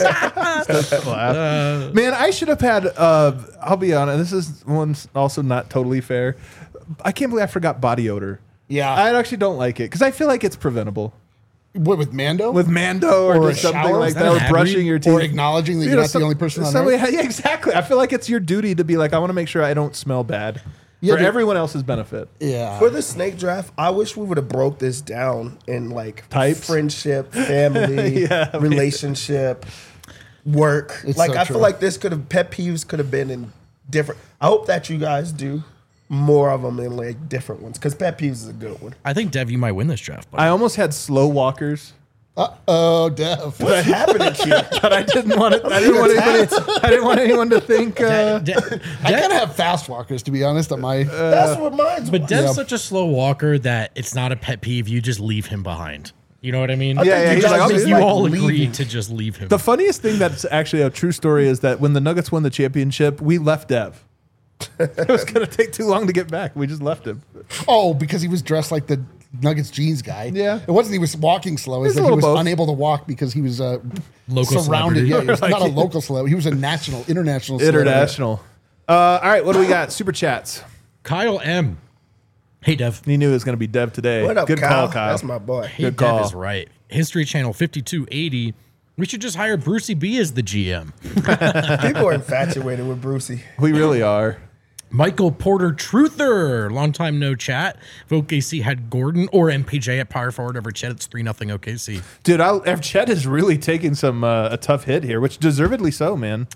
Man, I should have had. I'll be honest. This is one's also not totally fair. I can't believe I forgot body odor. Yeah. I actually don't like it because I feel like it's preventable What, with Mando? with Mando or Or just a something shower? like Is that that, an or ad brushing read? your teeth, or acknowledging that you're not the only person on somebody, Earth? yeah, exactly. I feel like it's your duty to be like, I want to make sure I don't smell bad for dude. everyone else's benefit. Yeah. For the snake draft, I wish we would have broke this down in like Types? friendship, family, relationship, work. It's like so I true. feel like this could have pet peeves could have been in different. I hope that you guys do more of them in like different ones because pet peeves is a good one. I think, Dev, you might win this draft. Buddy. I almost had slow walkers, Uh-oh, Dev. What's happening here? but I didn't want it. I didn't want anyone to think. I kind of have fast walkers, to be honest, on my... That's what mine's. But was. Dev's Yeah. such a slow walker that it's not a pet peeve. You just leave him behind. You know what I mean? Yeah, you he's guys like, I'll just do You it. like all leaving. agreed to just leave him. The funniest thing that's actually a true story is that when the Nuggets won the championship, we left Dev. It was going to take too long to get back. We just left him. Oh, because he was dressed like the Nuggets jeans guy. Yeah. It wasn't he was walking slow. It's It's a that he little was both. unable to walk because he was Local surrounded. celebrity. Yeah, he was Like- not a local celebrity. He was a international celebrity. International. All right, what do we got? Super chats. Kyle M. Hey, Dev. He knew it was going to be Dev today. What up, Good Kyle? call, Kyle. That's my boy. Hey, Good Dev call. is right. History Channel 5280. We should just hire Brucey B as the GM. People are infatuated with Brucey. We really are. Michael Porter Truther, long time no chat. If OKC had Gordon or MPJ at power forward over Chet, it's 3-0 OKC. Dude, Chet is really taking some a tough hit here, which deservedly so, man.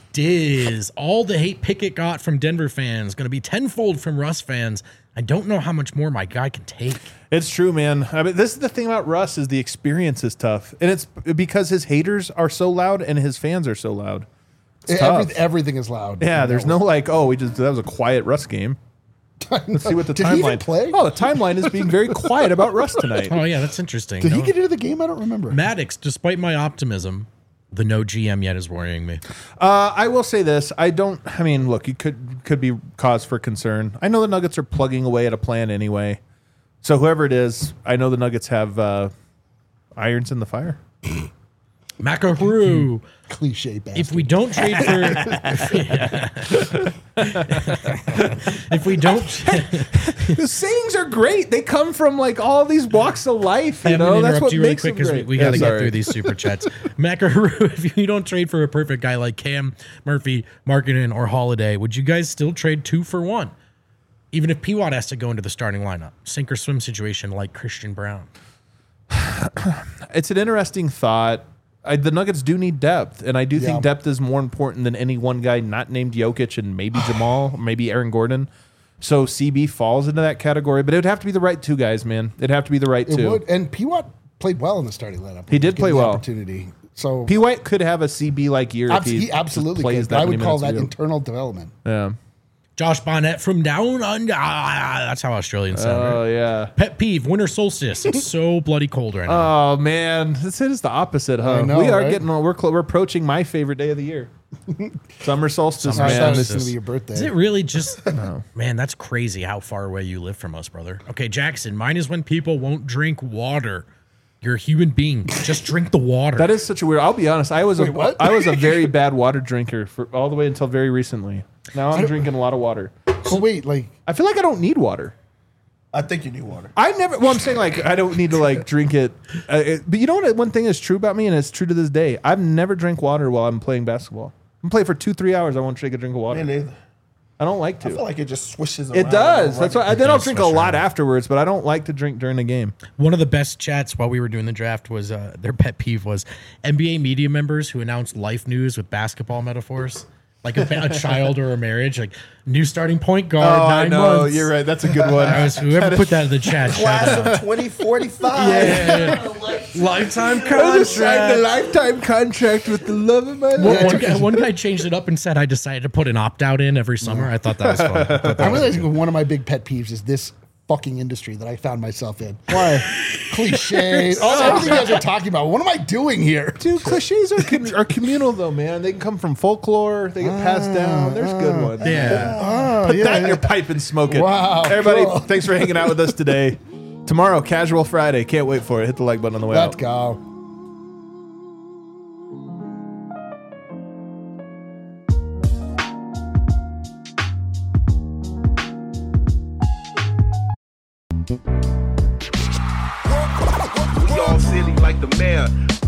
Diz, all the hate Pickett got from Denver fans, going to be tenfold from Russ fans. I don't know how much more my guy can take. It's true, man. I mean, this is the thing about Russ is the experience is tough, and it's because his haters are so loud and his fans are so loud. It's tough. Everything is loud. Yeah, there's no like, oh, that was a quiet Russ game. Let's see what the Did timeline. he even play? Oh, the timeline is being very quiet about Russ tonight. Oh, yeah, that's interesting. Did he No- get into the game? I don't remember. Maddox, despite my optimism, the no GM yet is worrying me. I will say this: I mean, look, it could be cause for concern. I know the Nuggets are plugging away at a plan anyway. So whoever it is, I know the Nuggets have irons in the fire. Macaru. Cliche bastard. If we don't trade for, if we don't, The sayings are great. They come from like all these walks of life. You I'm know, gonna that's interrupt what you really makes quick them because great. we got to Yeah, get sorry. through these super chats. Macaru, if you don't trade for a perfect guy like Cam, Murphy, Markkanen, or Holiday, would you guys still trade 2 for 1? Even if P-Watt has to go into the starting lineup, sink or swim situation like Christian Brown. It's an interesting thought. The Nuggets do need depth, and I do Yeah. think depth is more important than any one guy not named Jokic and maybe Jamal, maybe Aaron Gordon. So CB falls into that category, but it would have to be the right two guys, man. It'd have to be the right it two. would, and P-Watt played well in the starting lineup. He did Given play the well. Opportunity. So P. White could have a CB like year if he absolutely plays could. that I would many call minutes that a year. internal development. Yeah. Josh Bonnet from Down Under. That's how Australians sound. Oh right? yeah. Pet peeve: winter solstice. It's so bloody cold right now. Oh man, this is the opposite, huh? I know, we are right? getting we're approaching my favorite day of the year, summer solstice. Summer I thought Man, it was solstice. going to be your birthday. Is it really just? Man, that's crazy how far away you live from us, brother. Okay, Jackson. Mine is when people won't drink water. You're a human being. Just drink the water. that is such a weird. I'll be honest. I was what? I was a very bad water drinker for all the way until very recently. Now I'm drinking a lot of water. So wait, like I feel like I don't need water. I think you need water. I never. Well, I'm saying like I don't need to like drink it. But you know what? One thing is true about me, and it's true to this day. I've never drank water while I'm playing basketball. I'm playing for 2-3 hours. I won't take a drink of water. Me neither. I don't like to. I feel like it just swishes around. It does. and That's why. around. Then I'll does drink a swish lot around. afterwards, but I don't like to drink during the game. One of the best chats while we were doing the draft was their pet peeve was NBA media members who announced life news with basketball metaphors, like a child or a marriage, like new starting point guard. 9 months. You're right. That's a good one. I was whoever put that in the chat. shout Class out. of 2045. Lifetime I just signed a contract. lifetime contract with the love of my life. One guy changed it up and said, "I decided to put an opt out in every summer." I thought that was fun. I thought that I was realize one of my big pet peeves is this fucking industry that I found myself in. Why? Cliches, everything you guys are talking about. What am I doing here? Dude, cliches are communal though, man. They can come from folklore. They get passed down. There's good ones. yeah. Put that in your pipe and smoke it. Wow, Everybody, cool. thanks for hanging out with us today. Tomorrow, Casual Friday. Can't wait for it. Hit the like button on the way Let's out. go. We all silly like the mayor.